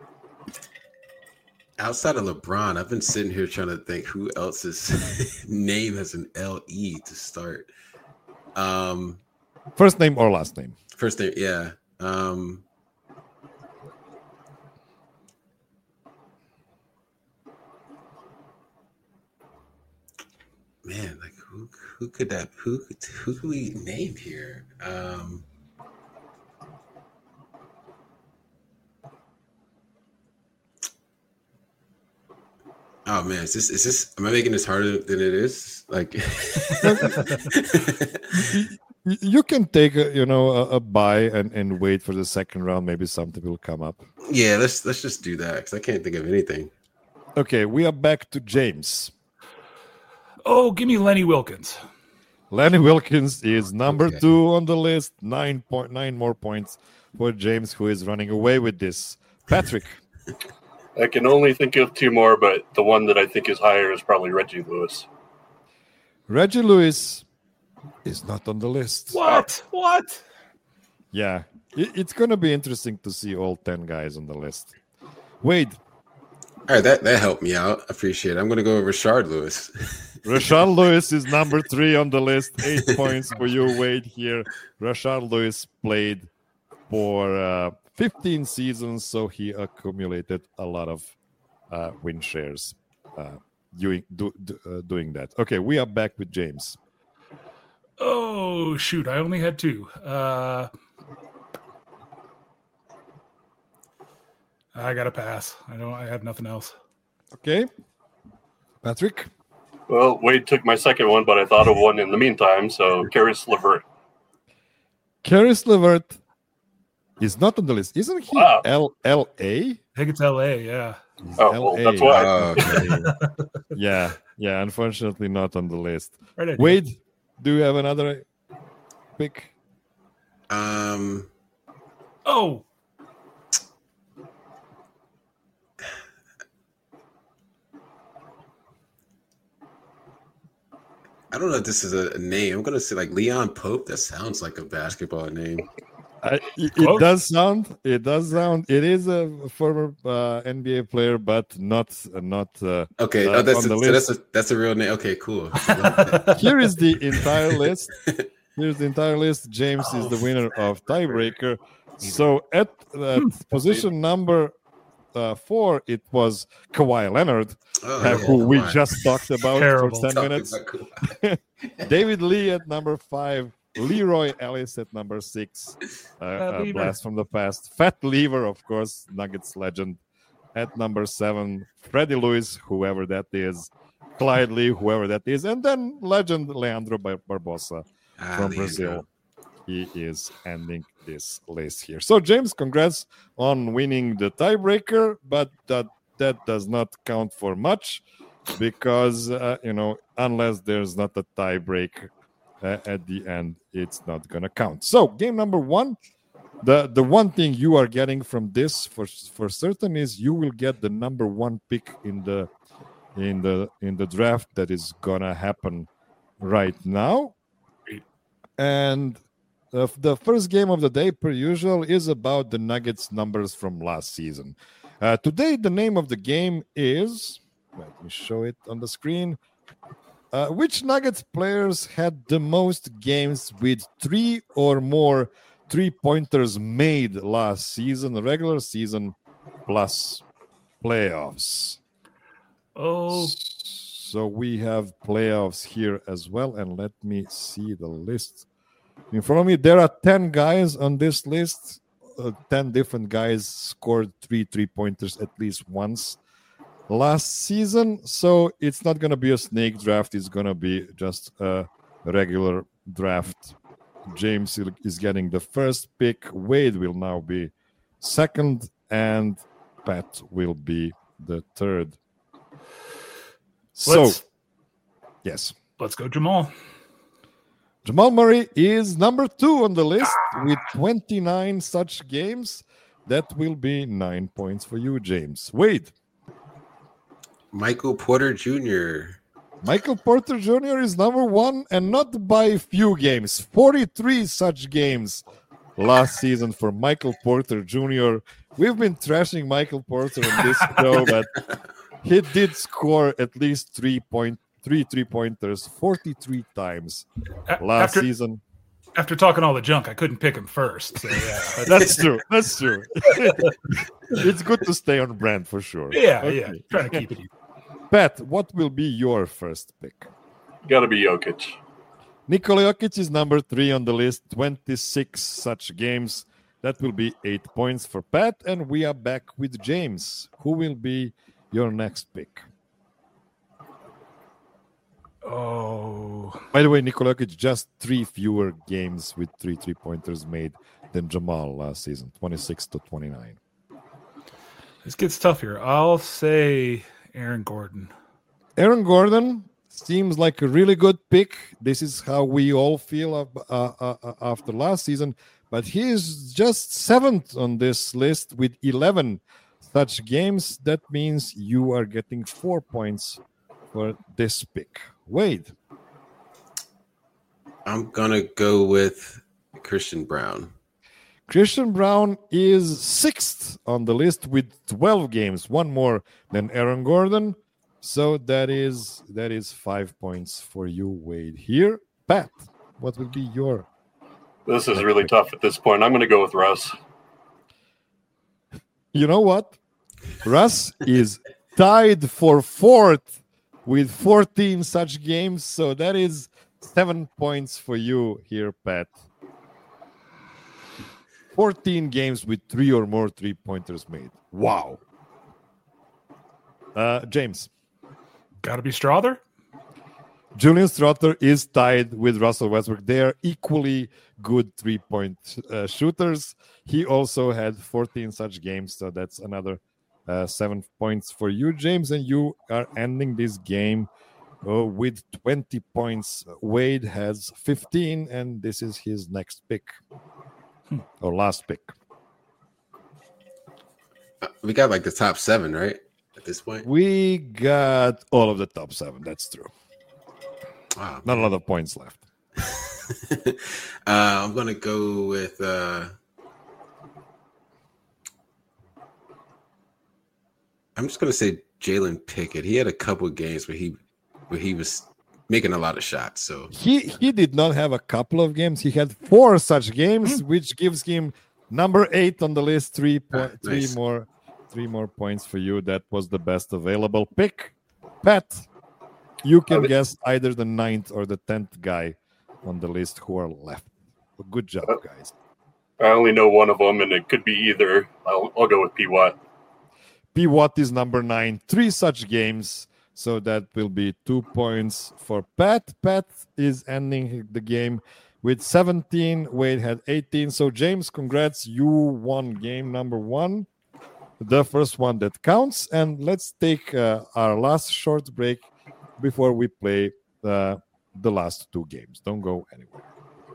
Outside of LeBron, I've been sitting here trying to think who else's name has an L-E to start. First name or last name? First name, yeah. Man, like who could that who could we name here? Oh man, is this am I making this harder than it is? Like you can take a buy and wait for the second round. Maybe something will come up. Yeah, let's just do that because I can't think of anything. Okay, we are back to James. Oh, give me Lenny Wilkins. Lenny Wilkins is number 2 on the list. 9 more points for James, who is running away with this. Patrick. I can only think of 2 more, but the one that I think is higher is probably Reggie Lewis. Reggie Lewis is not on the list. What? Yeah, it's going to be interesting to see all 10 guys on the list. Wade. All right, that helped me out. I appreciate it. I'm going to go with Rashard Lewis. Rashard Lewis is number 3 on the list. 8 points for you, Wade, here. Rashard Lewis played for 15 seasons, so he accumulated a lot of win shares doing that. Okay, we are back with James. Oh, shoot. I only had 2. I got to pass. I have nothing else. Okay. Patrick? Well, Wade took my second one, but I thought of one in the meantime, so Caris LeVert. Caris LeVert is not on the list. Isn't he L.A.? I think it's L.A., yeah. Well, that's why. Yeah, unfortunately not on the list. Right. Wade, do you have another pick? Oh, I don't know if this is a name. I'm gonna say like Leon Pope. That sounds like a basketball name. It does sound. It does sound. It is a former NBA player, but not. Okay, on the list. That's a real name. Okay, cool. Here is the entire list. Here's the entire list. James is the winner of tiebreaker. So at position number 4, it was Kawhi Leonard, who we just talked about Terrible. for 10 minutes. David Lee at number 5. Leroy Ellis at number 6. Blast from the past. Fat Lever, of course, Nuggets legend, at number 7. Freddie Lewis, whoever that is. Clyde Lee, whoever that is. And then legend Leandro Barbosa from Brazil. He is ending this list here. So, James, congrats on winning the tiebreaker, but that does not count for much because, unless there's not a tiebreak at the end, it's not going to count. So, game number 1, the one thing you are getting from this for certain is you will get the number 1 pick in the draft that is going to happen right now. And the first game of the day, per usual, is about the Nuggets numbers from last season. Today, the name of the game is, let me show it on the screen, which Nuggets players had the most games with 3 or more 3-pointers made last season, regular season plus playoffs. Oh. So we have playoffs here as well, and let me see the list. In front of me, there are 10 guys on this list. 10 different guys scored 3-pointers at least once last season. So it's not going to be a snake draft. It's going to be just a regular draft. James is getting the first pick. Wade will now be second, and Pat will be the third. Yes. Let's go, Jamal. Jamal Murray is number 2 on the list with 29 such games. That will be 9 points for you, James. Wade. Michael Porter Jr. Michael Porter Jr. is number 1, and not by a few games. 43 such games last season for Michael Porter Jr. We've been trashing Michael Porter on this show, but he did score at least 3-pointers 43 times last season. After talking all the junk, I couldn't pick him first. So yeah, that's true. That's true. It's good to stay on brand for sure. Yeah, trying to keep it. Pat, what will be your first pick? Got to be Jokic. Nikola Jokic is number 3 on the list. 26 such games. That will be 8 points for Pat, and we are back with James. Who will be your next pick? Oh. By the way, Nikola Jokic just 3 fewer games with 3-pointers made than Jamal last season, 26-29. This gets tough here. I'll say Aaron Gordon. Aaron Gordon seems like a really good pick. This is how we all feel after last season. But he is just 7th on this list with 11 such games. That means you are getting 4 points for this pick. Wade. I'm going to go with Christian Brown. Christian Brown is 6th on the list with 12 games, 1 more than Aaron Gordon. So that is 5 points for you, Wade. Here, Pat, what will be your? This is really tough at this point. I'm going to go with Russ. You know what? Russ is tied for 4th with 14 such games. So that is 7 points for you here, Pat. 14 games with 3 or more 3-pointers made. Wow. James. Got to be Strother. Julian Strother is tied with Russell Westbrook. They are equally good 3-point shooters. He also had 14 such games, so that's another 7 points for you, James. And you are ending this game with 20 points. Wade has 15, and this is his next pick. Or last pick. We got like the top 7, right? At this point, We got all of the top 7. That's true. wow, Not a lot of points left. I'm gonna go with. I'm just gonna say Jalen Pickett. He had a couple of games where he was making a lot of shots. So He did not have a couple of games. He had 4 such games, which gives him number 8 on the list. Nice. Three more points for you. That was the best available pick. Pat, you can guess either the 9th or the 10th guy on the list who are left. Good job, guys. I only know one of them, and it could be either. I'll go with P. Watt. P. Watt is number 9. 3 such games. So that will be 2 points for Pat. Pat is ending the game with 17. Wade had 18. So, James, congrats. You won game number 1. The first one that counts. And let's take our last short break before we play the last 2 games. Don't go anywhere.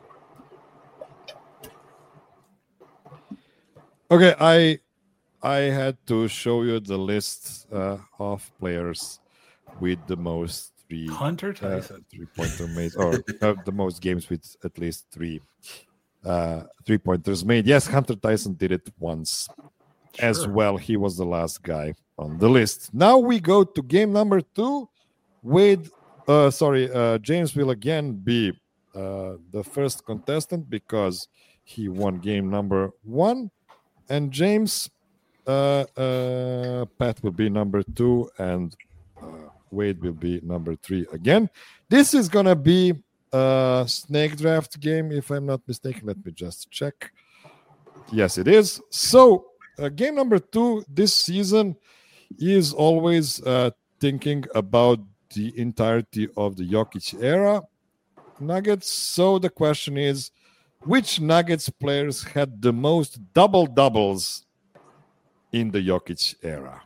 Okay, I had to show you the list of players with the most Hunter Tyson 3-pointer made, or the most games with at least 3-pointers made. Yes, Hunter Tyson did it once as well. He was the last guy on the list. Now we go to game number 2. James will again be the first contestant because he won game number 1. And James, Pat will be number 2, and Wade will be number 3 again. This is going to be a snake draft game, if I'm not mistaken. Let me just check. Yes, it is. So, game number 2 this season is always thinking about the entirety of the Jokic era Nuggets. So, the question is, which Nuggets players had the most double-doubles in the Jokic era?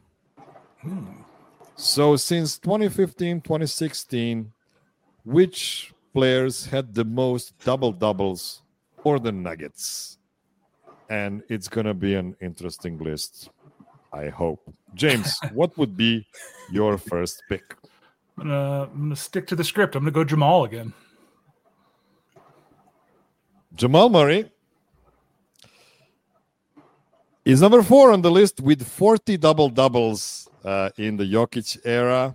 So since 2015, 2016, which players had the most double-doubles for the Nuggets? And it's going to be an interesting list, I hope. James, what would be your first pick? I'm gonna stick to the script. I'm gonna go Jamal again. Jamal Murray is number 4 on the list with 40 double-doubles in the Jokic era.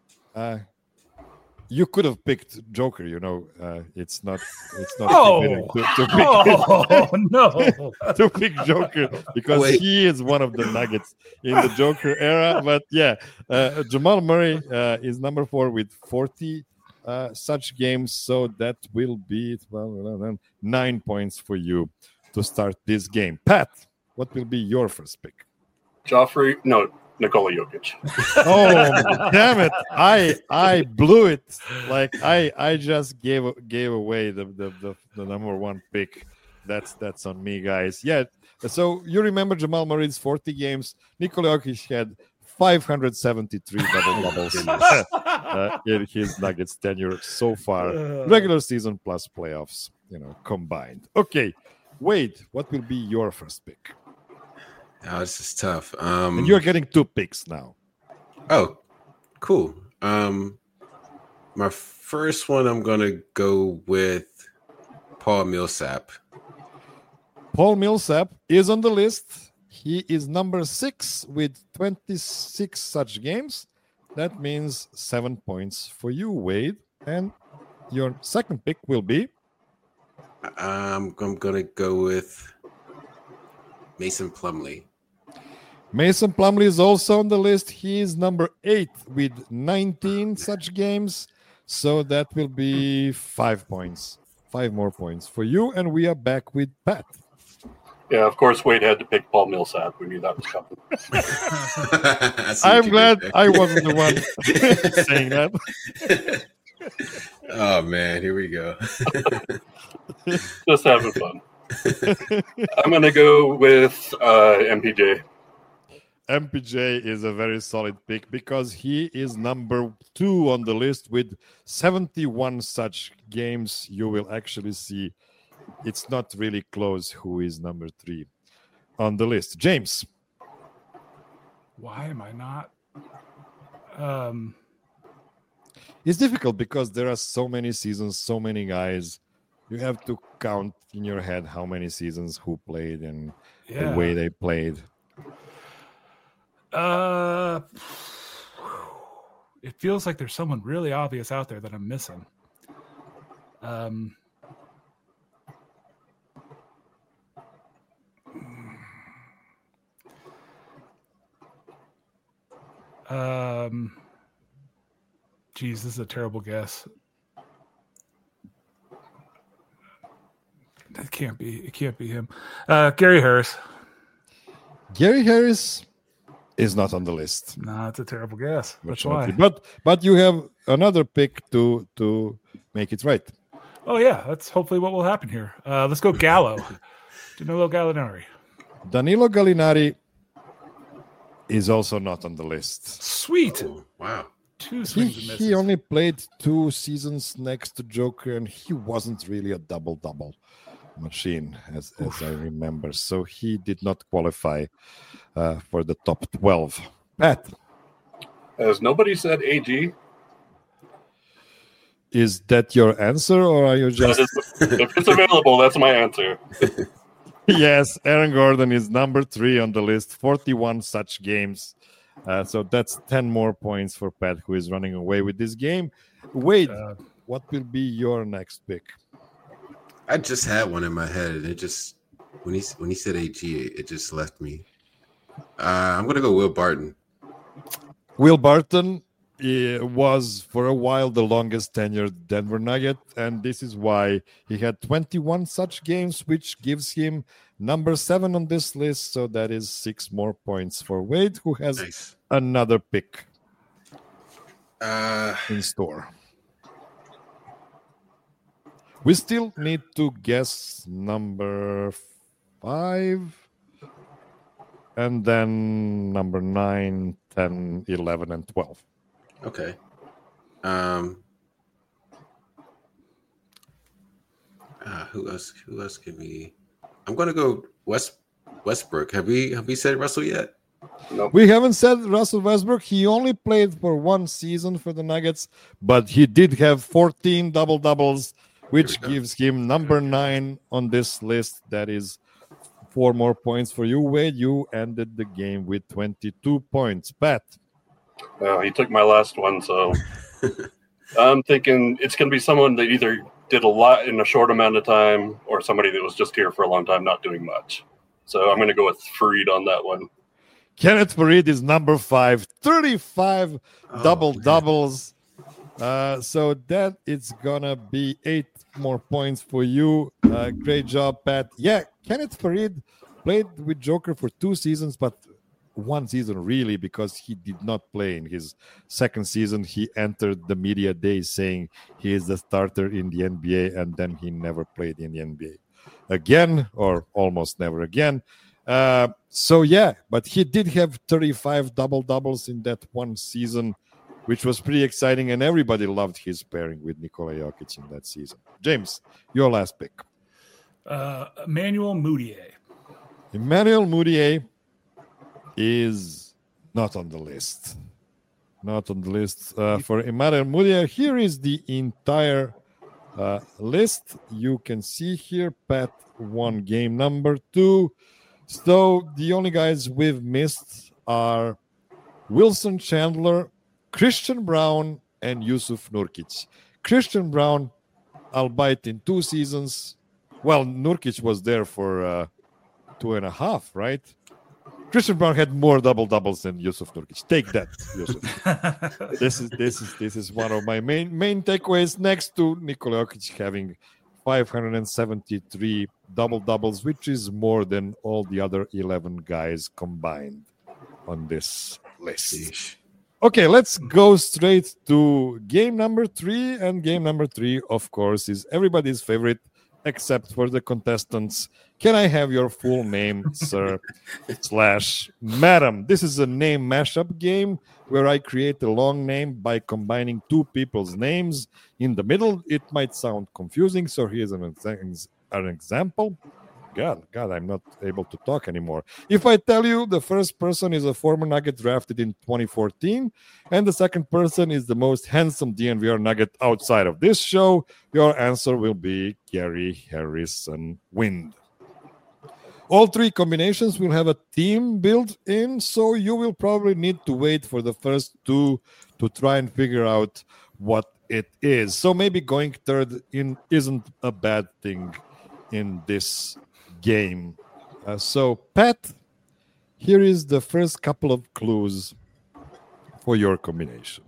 You could have picked Joker, it's not Oh, no. to pick Joker because he is one of the Nuggets in the Joker era. But yeah, Jamal Murray is number 4 with 40 such games. So that will be 9 points for you to start this game. Pat, what will be your first pick? Nikola Jokic. Oh, damn it. I blew it. Like I just gave away the number 1 pick. That's on me, guys. Yeah. So you remember Jamal Murray's 40 games. Nikola Jokic had 573 double-doubles in his Nuggets tenure so far. Regular season plus playoffs, combined. Okay. Wade, what will be your first pick? Oh, this is tough. And you're getting 2 picks now. Oh, cool. My first one, I'm going to go with Paul Millsap. Paul Millsap is on the list. He is number 6 with 26 such games. That means 7 points for you, Wade. And your second pick will be? I'm going to go with Mason Plumlee. Mason Plumlee is also on the list. He is number 8 with 19 such games. So that will be 5 points. 5 more points for you. And we are back with Pat. Yeah, of course, Wade had to pick Paul Millsap. We knew that was coming. I'm glad I wasn't the one saying that. Oh, man. Here we go. Just having fun. I'm going to go with MPJ. MPJ is a very solid pick because he is number 2 on the list with 71 such games. You will actually see it's not really close who is number 3 on the list. James. Why am I not? It's difficult because there are so many seasons, so many guys. You have to count in your head how many seasons who played and the way they played. It feels like there's someone really obvious out there that I'm missing. Geez, this is a terrible guess. It can't be him. Gary Harris. Gary Harris is not on the list. Nah, it's a terrible guess. That's why. But you have another pick to make it right. Oh yeah, that's hopefully what will happen here. Let's go Gallo. Danilo Gallinari. Danilo Gallinari is also not on the list. Sweet. Oh, wow. 2 swings and misses. He only played 2 seasons next to Joker, and he wasn't really a double-double machine, as I remember. So he did not qualify for the top 12. Pat. Has nobody said AG? Is that your answer, or are you just... If it's available, that's my answer. Yes, Aaron Gordon is number 3 on the list, 41 such games. So that's 10 more points for Pat, who is running away with this game. Wade, what will be your next pick? I just had one in my head, and it just when he said AG, it just left me. I'm gonna go Will Barton. Will Barton was for a while the longest tenured Denver Nugget, and this is why he had 21 such games, which gives him number 7 on this list. So that is 6 more points for Wade, who has another pick in store. We still need to guess number 5 and then number 9, 10, 11, and 12. Okay. Who else can we? I'm gonna go Westbrook. Have we said Russell yet? Nope. We haven't said Russell Westbrook. He only played for 1 season for the Nuggets, but he did have 14 double-doubles, which gives him number 9 on this list. That is 4 more points for you, Wade. You ended the game with 22 points. Pat. He took my last one, so I'm thinking it's going to be someone that either did a lot in a short amount of time or somebody that was just here for a long time not doing much. So I'm going to go with Fareed on that one. Kenneth Fareed is number 5, 35 double-doubles. So that is going to be 8 more points for you. Great job, Pat. Yeah, Kenneth Fareed played with Joker for 2 seasons, but 1 season really, because he did not play in his second season. He entered the media day saying he is the starter in the NBA, and then he never played in the NBA again, or almost never again. So yeah, but he did have 35 double-doubles in that 1 season, which was pretty exciting, and everybody loved his pairing with Nikola Jokic in that season. James, your last pick. Emmanuel Mudiay. Emmanuel Mudiay is not on the list. Not on the list for Emmanuel Mudiay. Here is the entire list. You can see here, Pat won game number 2. So the only guys we've missed are Wilson Chandler, Christian Braun, and Yusuf Nurkic. Christian Braun, albeit in 2 seasons. Well, Nurkic was there for 2.5, right? Christian Braun had more double-doubles than Yusuf Nurkic. Take that, Yusuf. This is one of my main takeaways, next to Nikola Jokic having 573 double-doubles, which is more than all the other 11 guys combined on this list. Sheesh. Okay, let's go straight to game number 3. And game number 3, of course, is everybody's favorite, except for the contestants. Can I have your full name, sir, / madam? This is a name mashup game where I create a long name by combining 2 people's names. In the middle, it might sound confusing, so here's an example. God, I'm not able to talk anymore. If I tell you the first person is a former Nugget drafted in 2014, and the second person is the most handsome DNVR Nugget outside of this show, your answer will be Gary Harrison Wind. All three combinations will have a theme built in, so you will probably need to wait for the first two to try and figure out what it is. So maybe going third in isn't a bad thing in this game. So, Pat, here is the first couple of clues for your combination.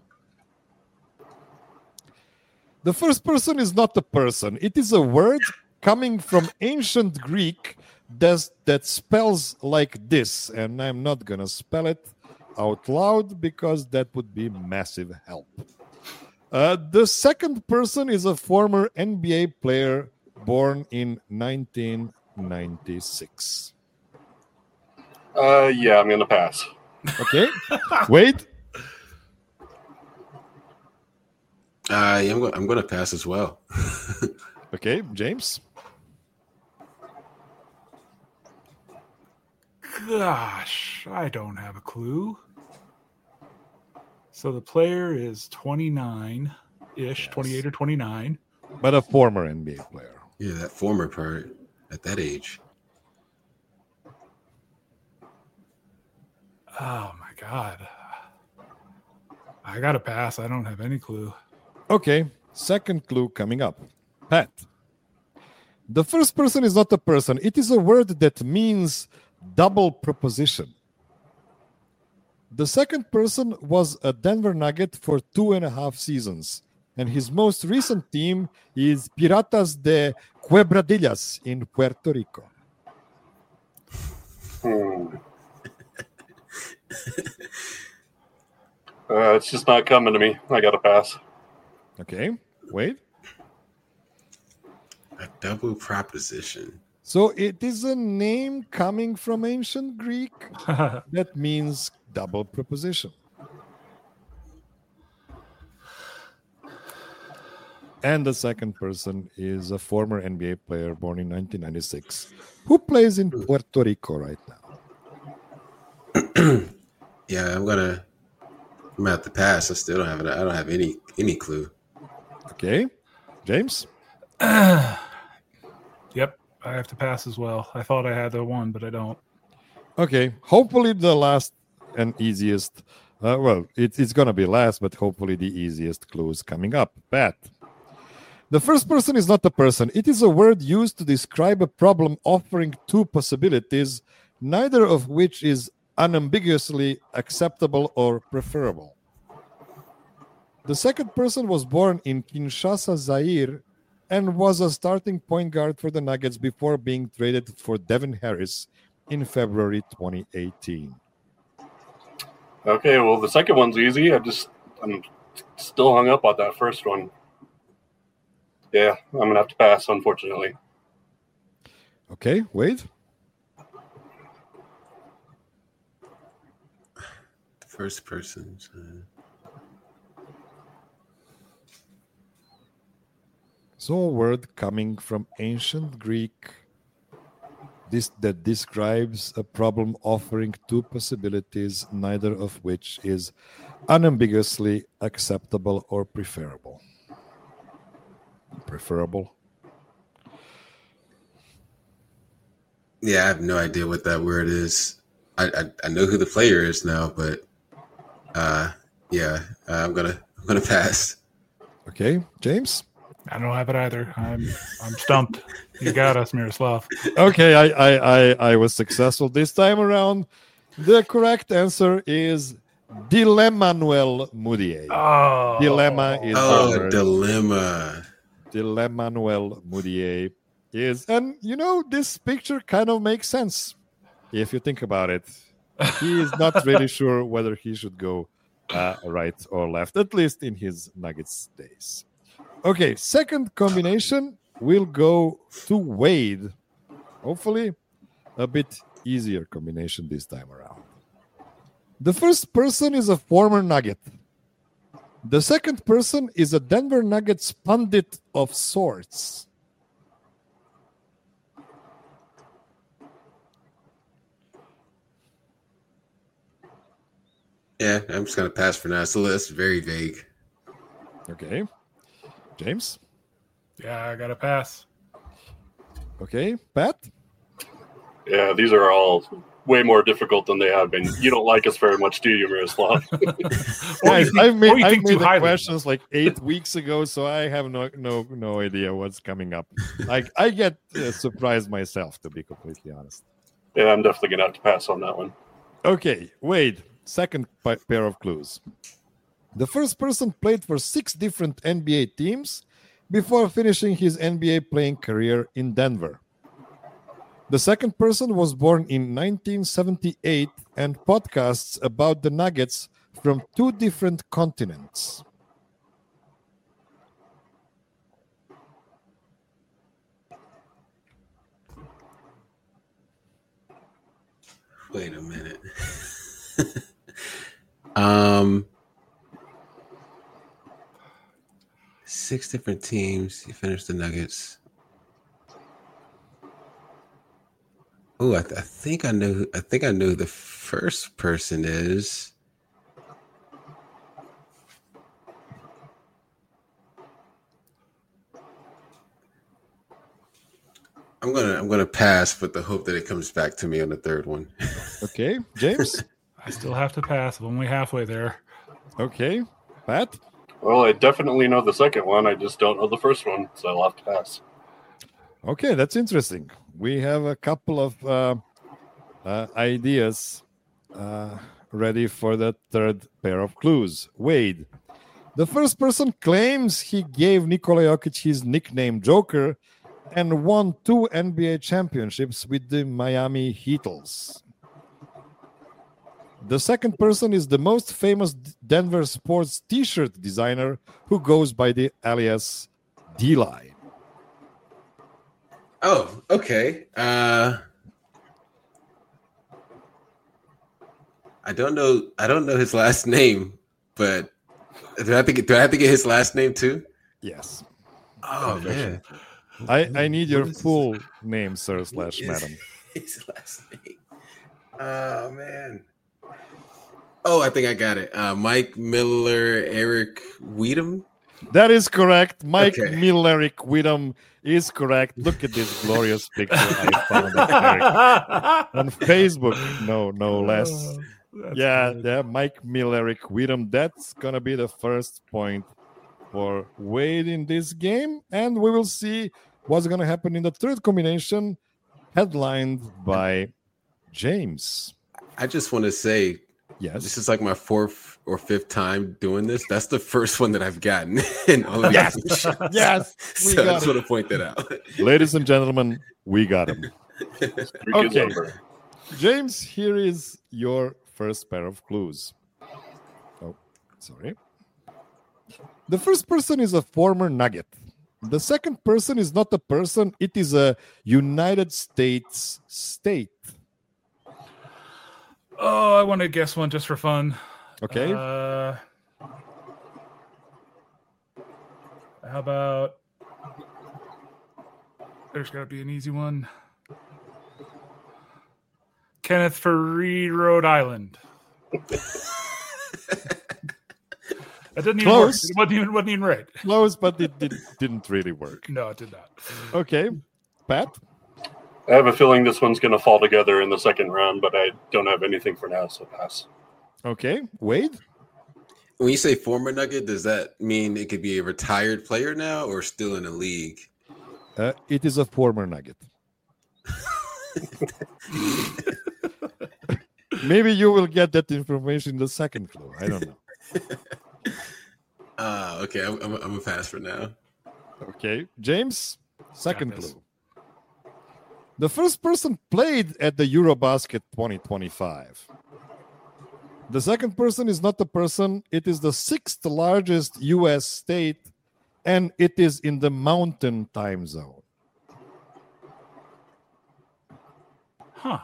The first person is not a person. It is a word coming from ancient Greek that spells like this. And I'm not going to spell it out loud because that would be massive help. The second person is a former NBA player born in 1996. Yeah, I'm going to pass. Okay. Wait. I'm going to pass as well. Okay, James. Gosh, I don't have a clue. So the player is 29-ish, yes. 28 or 29. But a former NBA player. Yeah, that former part at that age. Oh, my God. I got to pass. I don't have any clue. Okay, second clue coming up. Pat. The first person is not a person. It is a word that means double preposition. The second person was a Denver Nugget for 2.5 seasons, and his most recent team is Piratas de Quebradillas in Puerto Rico. It's just not coming to me. I got to pass. Okay, wait. A double proposition. So it is a name coming from ancient Greek that means double preposition. And the second person is a former NBA player born in 1996 who plays in Puerto Rico right now. Yeah, I'm gonna have to pass. I still don't have it. I don't have any clue. Okay, James. Yep, I have to pass as well. I thought I had the one, but I don't. Okay, hopefully the last and easiest. It's gonna be last, but hopefully the easiest clues coming up. Pat. The first person is not a person. It is a word used to describe a problem offering two possibilities, neither of which is unambiguously acceptable or preferable. The second person was born in Kinshasa, Zaire, and was a starting point guard for the Nuggets before being traded for Devin Harris in February 2018. Okay, well, the second one's easy. I'm still hung up on that first one. Yeah, I'm going to have to pass, unfortunately. Okay, wait. First person. So a word coming from ancient Greek that describes a problem offering two possibilities, neither of which is unambiguously acceptable or preferable. Preferable. Yeah, I have no idea what that word is. I know who the player is now, but I'm gonna pass. Okay, James. I don't have it either. I'm stumped. You got us, Miroslav. Okay, I was successful this time around. The correct answer is Dilemanuel Mudiay. Oh, Dilemma is Dilemma. Dilemanuel Mudiay is, and this picture kind of makes sense if you think about it. He is not really sure whether he should go right or left, at least in his Nuggets days. Okay, second combination will go to Wade. Hopefully, a bit easier combination this time around. The first person is a former Nugget. The second person is a Denver Nuggets pundit of sorts. Yeah, I'm just gonna pass for now. So that's very vague. Okay. James? Yeah, I got to pass. Okay. Pat? Yeah, these are all way more difficult than they have been. You don't like us very much, do you, Miroslav? Guys, I made too the highly. questions like 8 weeks ago, so I have no idea what's coming up. Like I get surprised myself, to be completely honest. Yeah, I'm definitely going to have to pass on that one. Okay, Wade, second pair of clues. The first person played for 6 different NBA teams before finishing his NBA playing career in Denver. The second person was born in 1978 and podcasts about the Nuggets from 2 different continents. Wait a minute. 6 different teams. He finished the Nuggets. Oh, I think I know. I think I know who the first person is. I'm gonna pass with the hope that it comes back to me on the third one. Okay, James? I still have to pass. I'm only halfway there. Okay, Pat? Well, I definitely know the second one. I just don't know the first one, so I'll have to pass. Okay, that's interesting. We have a couple of ideas ready for the third pair of clues. Wade, the first person claims he gave Nikola Jokic his nickname Joker and won 2 NBA championships with the Miami Heatles. The second person is the most famous Denver sports t-shirt designer who goes by the alias D-Line. Oh, okay. I don't know his last name, but do I have to get his last name too? Yes. Oh man. I need your full name, sir / madam. His last name. Oh man. Oh, I think I got it. Mike Miller, Eric Weedham. That is correct. Mike Okay. Millerick Widom is correct. Look at this glorious picture I found of Eric on Facebook. No less. Yeah, Mike Millerick Widom. That's gonna be the first point for Wade in this game, and we will see what's gonna happen in the third combination, headlined by James. I just want to say, Yes. this is like my 4th or 5th time doing this. That's the first one that I've gotten. In all of Yes. these shows. Yes. We So I got just it. want to point that out. Ladies and gentlemen, we got him. Pretty good Okay. number. James, here is your first pair of clues. Oh, sorry. The first person is a former Nugget. The second person is not a person, it is a United States state. Oh, I want to guess one just for fun. Okay. How about? There's got to be an easy one. Kenneth Fareed, Rhode Island. That didn't even Close. work. It wasn't even right. Close, but it didn't really work. No, it did not. Okay. Pat? I have a feeling this one's going to fall together in the second round, but I don't have anything for now, so pass. Okay. Wade? When you say former Nugget, does that mean it could be a retired player now or still in the league? It is a former Nugget. Maybe you will get that information in the second clue. I don't know. Okay, I'm gonna pass for now. Okay, James, second Got this. clue. The first person played at the Eurobasket 2025. The second person is not a person, it is the 6th largest US state, and it is in the Mountain Time Zone. Huh.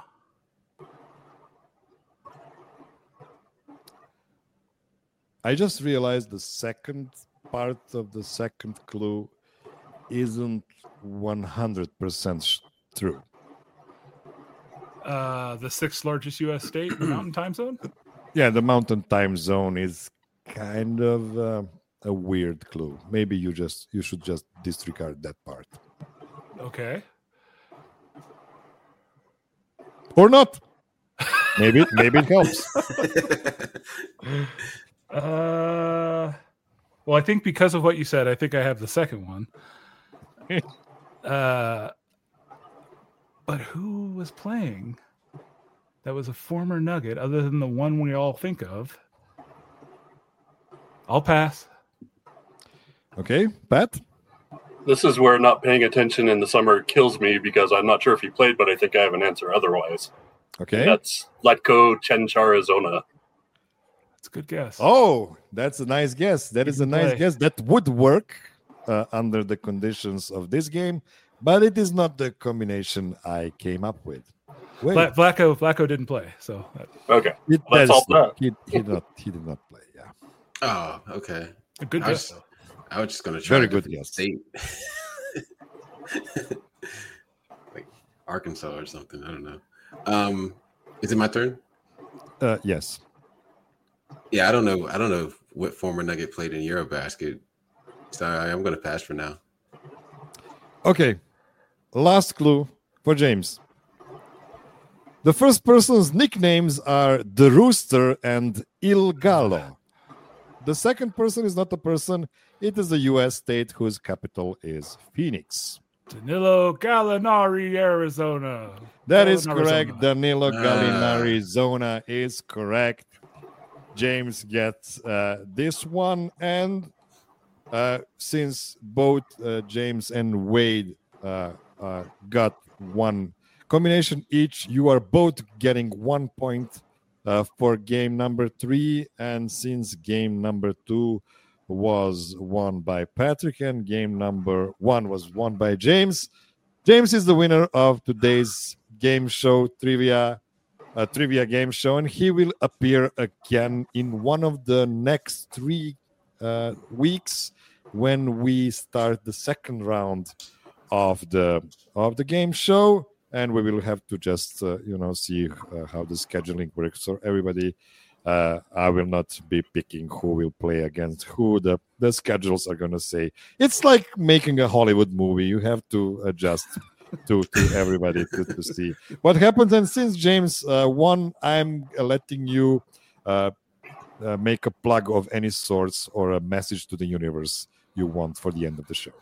I just realized the second part of the second clue isn't 100% true. The 6th largest U.S. state in the Mountain Time Zone. Yeah, the Mountain Time Zone is kind of a weird clue. Maybe you should just disregard that part. Okay. Or not. Maybe it helps. Well, I think because of what you said, I think I have the second one. But who was playing that was a former Nugget other than the one we all think of? I'll pass. Okay, Pat? This is where not paying attention in the summer kills me because I'm not sure if he played, but I think I have an answer otherwise. Okay. And that's Letko Chencharizona. That's a good guess. Oh, that's a nice guess. That is a nice play. guess. That would work under the conditions of this game, but it is not the combination I came up with. Wait, Flacco didn't play, so Okay. that's all that. he did not play. Yeah, Oh, okay. a good guess. Though. I was just gonna try Very a good different guess. state. Like Arkansas or something. I don't know. Is it my turn? yes. Yeah, I don't know what former Nugget played in Eurobasket. So I'm gonna pass for now. Okay, last clue for James. The first person's nicknames are The Rooster and Il Gallo. The second person is not a person. It is a U.S. state whose capital is Phoenix. Danilo Gallinari, Arizona. That is Gallinari, correct. Arizona. Danilo Gallinari, Zona is correct. James gets this one. And since both James and Wade got one combination each, you are both getting 1 point for game number 3. And since game number 2 was won by Patrick and game number 1 was won by James, James is the winner of today's game show trivia game show, and he will appear again in one of the next 3 weeks when we start the second round of the game show, and we will have to just see how the scheduling works. So everybody, I will not be picking who will play against who. The schedules are going to say. It's like making a Hollywood movie. You have to adjust to everybody to see what happens. And since James won, I'm letting you make a plug of any sorts or a message to the universe you want for the end of the show.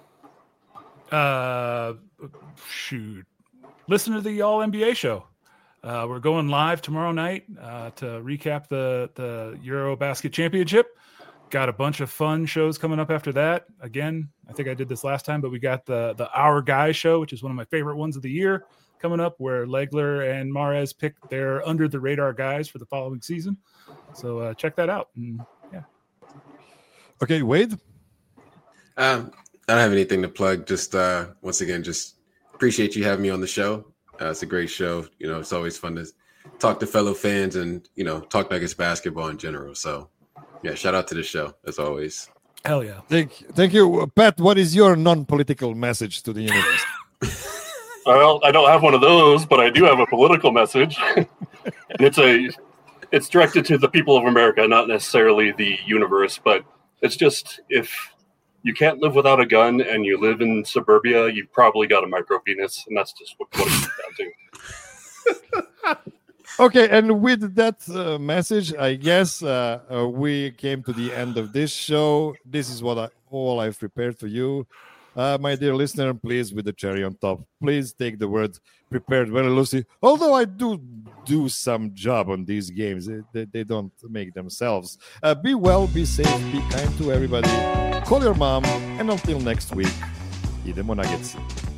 Shoot. Listen to the All NBA show. We're going live tomorrow night to recap the Eurobasket Championship. Got a bunch of fun shows coming up after that. Again, I think I did this last time, but we got the Our Guy show, which is one of my favorite ones of the year, coming up, where Legler and Mahrez pick their under the radar guys for the following season. So check that out. And, yeah. Okay, Wade. I don't have anything to plug. Just once again, just appreciate you having me on the show. It's a great show. It's always fun to talk to fellow fans and talk Nuggets basketball in general. So. Yeah, shout out to the show, as always. Hell yeah. Thank you. Pat, what is your non-political message to the universe? Well, I don't have one of those, but I do have a political message. And it's directed to the people of America, not necessarily the universe, but it's just, if you can't live without a gun and you live in suburbia, you've probably got a micro penis, and that's just what it comes down to. Okay, and with that message, I guess we came to the end of this show. This is all I've prepared for you. My dear listener, please, with the cherry on top, please take the word prepared very loosely. Although I do some job on these games, they don't make themselves. Be well, be safe, be kind to everybody. Call your mom, and until next week, idemo Nuggets.